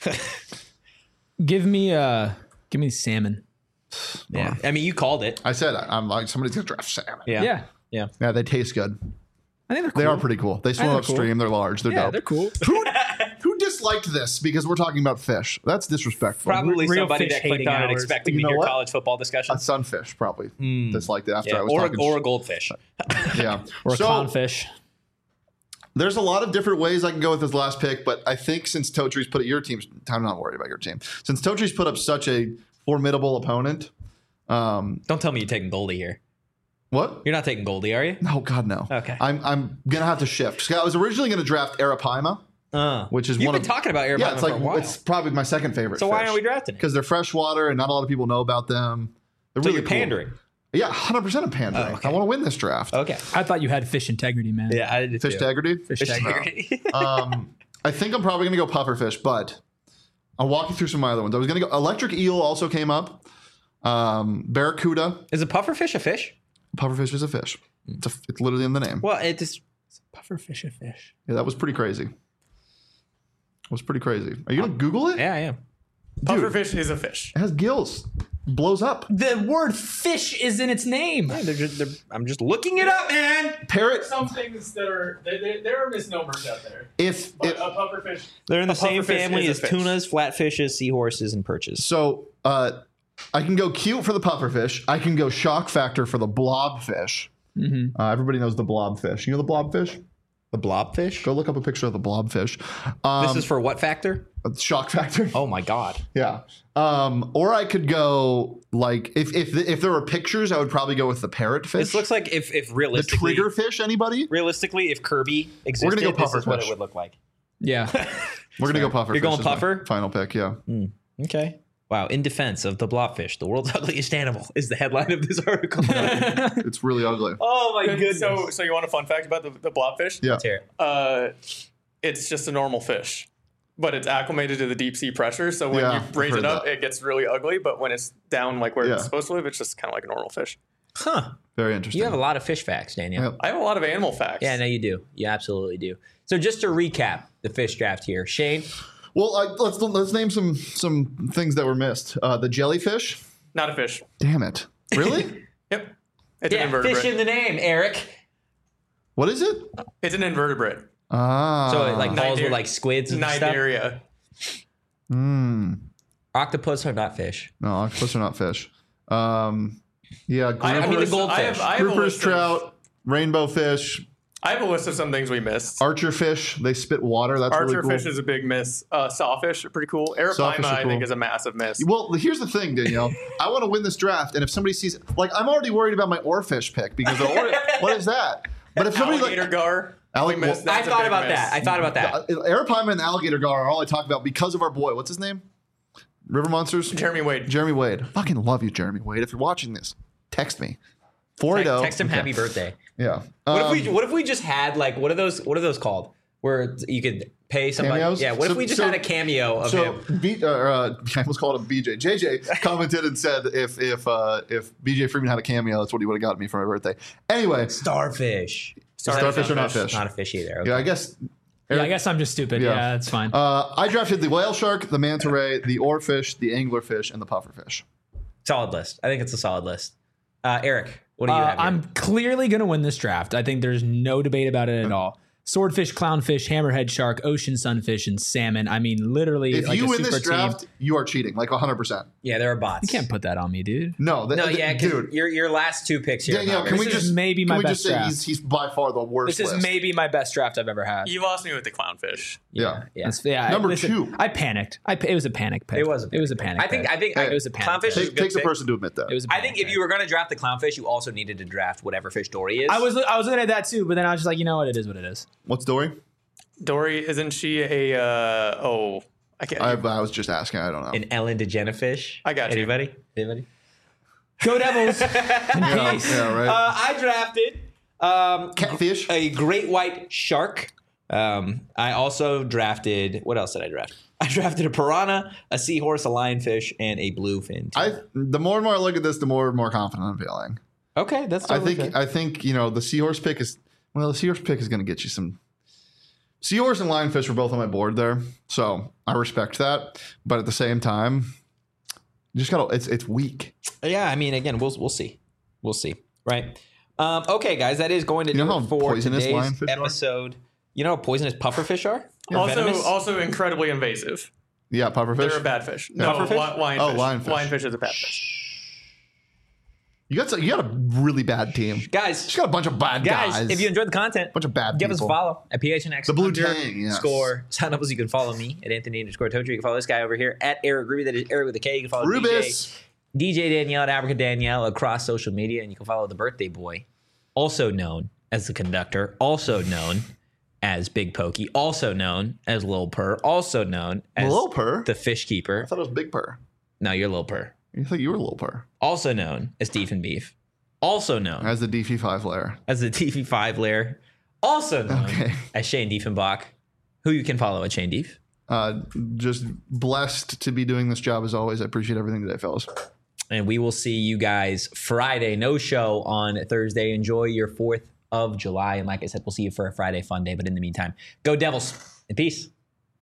Give me uh give me salmon. Yeah. I mean, you called it. I said I'm like somebody's going to draft salmon. Yeah. Yeah. Yeah. Yeah, they taste good. I think they're cool. They are pretty cool. They swim they're cool. upstream. They're large. They're Yeah, dope. they're cool. Who, who disliked this because we're talking about fish? That's disrespectful. Probably Real somebody fish that clicked hating on it hours. expecting You to know hear what? college football discussion. A sunfish probably disliked it after Yeah, I was or, talking. or a goldfish. yeah. Or a So, clownfish. There's a lot of different ways I can go with this last pick, but I think since Totree's put it, your team's, I'm not worried about your team. Since Totree's put up such a formidable opponent. Um, Don't tell me you're taking Goldie here. What? You're not taking Goldie, are you? No, God, no. Okay. I'm I'm gonna have to shift. So I was originally gonna draft Arapaima, Uh, which is you've one been of talking about Arapaima yeah, it's for like a while. it's probably my second favorite. So why aren't we drafting it? Because they're freshwater and not a lot of people know about them. They're So really you're cool. pandering. Yeah, one hundred percent of pandering. Oh, okay. I want to win this draft. Okay. I thought you had fish integrity, man. Yeah, I did Fish too. integrity. Fish Fish integrity. integrity. um, I think I'm probably gonna go pufferfish, but I'll walk you through some of my other ones. I was gonna go electric eel. Also came up. Um, barracuda. Is a pufferfish a fish? Pufferfish is a fish. It's, a, it's literally in the name. Well, it just Pufferfish a fish. Yeah, that was pretty crazy. That was pretty crazy. Are you gonna Google it? yeah, I am. Pufferfish is a fish. It has gills. Blows up. The word fish is in its name. Yeah, they're just, they're, I'm just looking it up, man. Parrot. Some things that are there, there are misnomers out there. If, But if a pufferfish. They're in the a same pufferfish family is as a fish. tunas, flatfishes, seahorses, and perches. so, uh, I can go cute for the pufferfish. I can go shock factor for the blobfish. Mm-hmm. Uh, everybody knows the blobfish. You know the blobfish? The blobfish? Go look up a picture of the blobfish. Um, This is for what factor? shock factor. Oh my god. Yeah. Um, or I could go like if if if there were pictures, I would probably go with the parrotfish. This looks like if if the realistically, triggerfish. Anybody? Realistically, if Kirby existed, We're gonna go this is what pufferfish. it would look like. Yeah. We're gonna go puffer. You're going puffer? Final pick. Yeah. Okay. Wow. In defense of the blobfish, the world's ugliest animal is the headline of this article. It's really ugly. Oh my goodness. So, so you want a fun fact about the, the blobfish? Yeah. Let's hear it. Uh, it's just a normal fish, but it's acclimated to the deep sea pressure. So when Yeah, you I've raise heard it up, that. it gets really ugly. But when it's down like where Yeah. it's supposed to live, it's just kind of like a normal fish. Huh. Very interesting. You have a lot of fish facts, Daniel. Yep. I have a lot of animal facts. Yeah, no, you do. You absolutely do. So just to recap the fish draft here, Shane. Well, I, let's let's name some some things that were missed. Uh, the jellyfish. Not a fish. Damn it! Really? Yep. It's an Yeah, invertebrate. fish in the name, Eric. What is it? It's an invertebrate. Ah. So it like falls Niger- with like squids and stuff. Nigeria. Hmm. Octopus are not fish. No, octopus are not fish. Um. Yeah. I, I have mean, a the list- I goldfish. have, I have a Groupers, list of- trout, rainbow fish, I have a list of some things we missed. archer fish. They spit water. That's Archer really cool. fish is a big miss. Uh, sawfish are pretty cool. Arapaima, Sawfish are I think, cool. is a massive miss. Well, here's the thing, Danielle. I want to win this draft, and if somebody sees, like, I'm already worried about my oarfish pick because the oar, what is that? But if somebody Alligator like gar. Alli- we missed. well, I That's a thought big about miss. that. I thought about that. uh, Arapaima and the alligator gar are all I talk about because of our boy. What's his name? River Monsters. Jeremy Wade. Jeremy Wade. Fucking love you, Jeremy Wade. If you're watching this, text me. four eight zero. Text him happy birthday. Yeah. What Um, if we what if we just had like what are those what are those called? Where you could pay somebody. Cameos? Yeah, what So- if we just so- had a cameo of So him? B, uh, uh, I almost called him B J. J J commented and said if if uh, if B J Freeman had a cameo, that's what he would have got me for my birthday. Anyway, Starfish. starfish are not fish. Not a fish either. Okay. Yeah, I guess. Yeah, I guess I'm just stupid. Yeah. Yeah, that's fine. Uh, I drafted the whale shark, the manta ray, the oarfish, the anglerfish, and the pufferfish. Solid list. I think it's a solid list. Uh, Eric, what do you Uh, have? Here? I'm clearly going to win this draft. I think there's no debate about it at all. Swordfish, clownfish, hammerhead shark, ocean sunfish, and salmon. I mean, literally, If like you a win super this draft, team. you are cheating, like one hundred percent. Yeah, there are bots. You can't put that on me, dude. No, th- No, th- yeah, 'cause dude. your your last two picks here. Danielle, can This we is just maybe can my we best just say draft. he's, he's by far the worst This is list. maybe my best draft I've ever had. You lost me with the clownfish. Yeah. yeah. That's- yeah, I- Number listen, two. I panicked. I it was a panic pick. It was a it was a panic. I think pick. I think Hey, it was a panic. clownfish pick. is a Take, good takes a pick. person to admit that. It was. A I panic think if pick. you were going to draft the clownfish, you also needed to draft whatever fish Dory is. I was I was looking at that too, but then I was just like, you know what, it is what it is. What's Dory? Dory, isn't she a, uh, oh, I can't. I, I was just asking. I don't know. an Ellen DeGeneres fish. I got you. Anybody? Anybody? Go Devils! In yeah, peace. yeah, right. Uh, I drafted um, Catfish. a great white shark. Um, I also drafted. What else did I draft? I drafted a piranha, a seahorse, a lionfish, and a bluefin. I the more and more I look at this, the more and more confident I'm feeling. Okay, that's. Totally I think fair. I think you know the seahorse pick is well the seahorse pick is going to get you some. Seahorse and lionfish were both on my board there, so I respect that. But at the same time, you just gotta. It's it's weak. Yeah, I mean, again, we'll we'll see, we'll see, right? Um, okay, guys, that is going to You do know it how for poisonous today's lionfish are? episode. You know how poisonous pufferfish are? Or Also, venomous? also incredibly invasive. Yeah, pufferfish. They're a bad fish. Yeah. No, Pufferfish? li- lionfish. Oh, lionfish. Lionfish is a bad fish. You got some, you got a really bad team, guys. Just got a bunch of bad Guys, guys. if you enjoyed the content, bunch of bad give us a people. follow at P H N X. The Blue Tang, yes. Score. Sign up so you can follow me at Anthony underscore Totri. You can follow this guy over here at Eric Ruby. That is Eric with a K. You can follow Rubis. D J, D J Danielle at Africa Danielle across social media. And you can follow the birthday boy, also known as the conductor, also known as Big Pokey, also known as Lil Purr, also known as Lil Purr? the Fish Keeper. I thought it was Big Purr. No, you're Lil Purr. You thought you were Lil Purr. Also known as Deef and Beef. Also known As the D P five layer. as the T V five layer. Also known Okay. as Shane Diefenbach, who you can follow at Shane Dief. Uh, just blessed to be doing this job as always. I appreciate everything today, fellas. And we will see you guys Friday. No show on Thursday. Enjoy your fourth of July. And like I said, we'll see you for a Friday fun day. But in the meantime, go Devils and peace.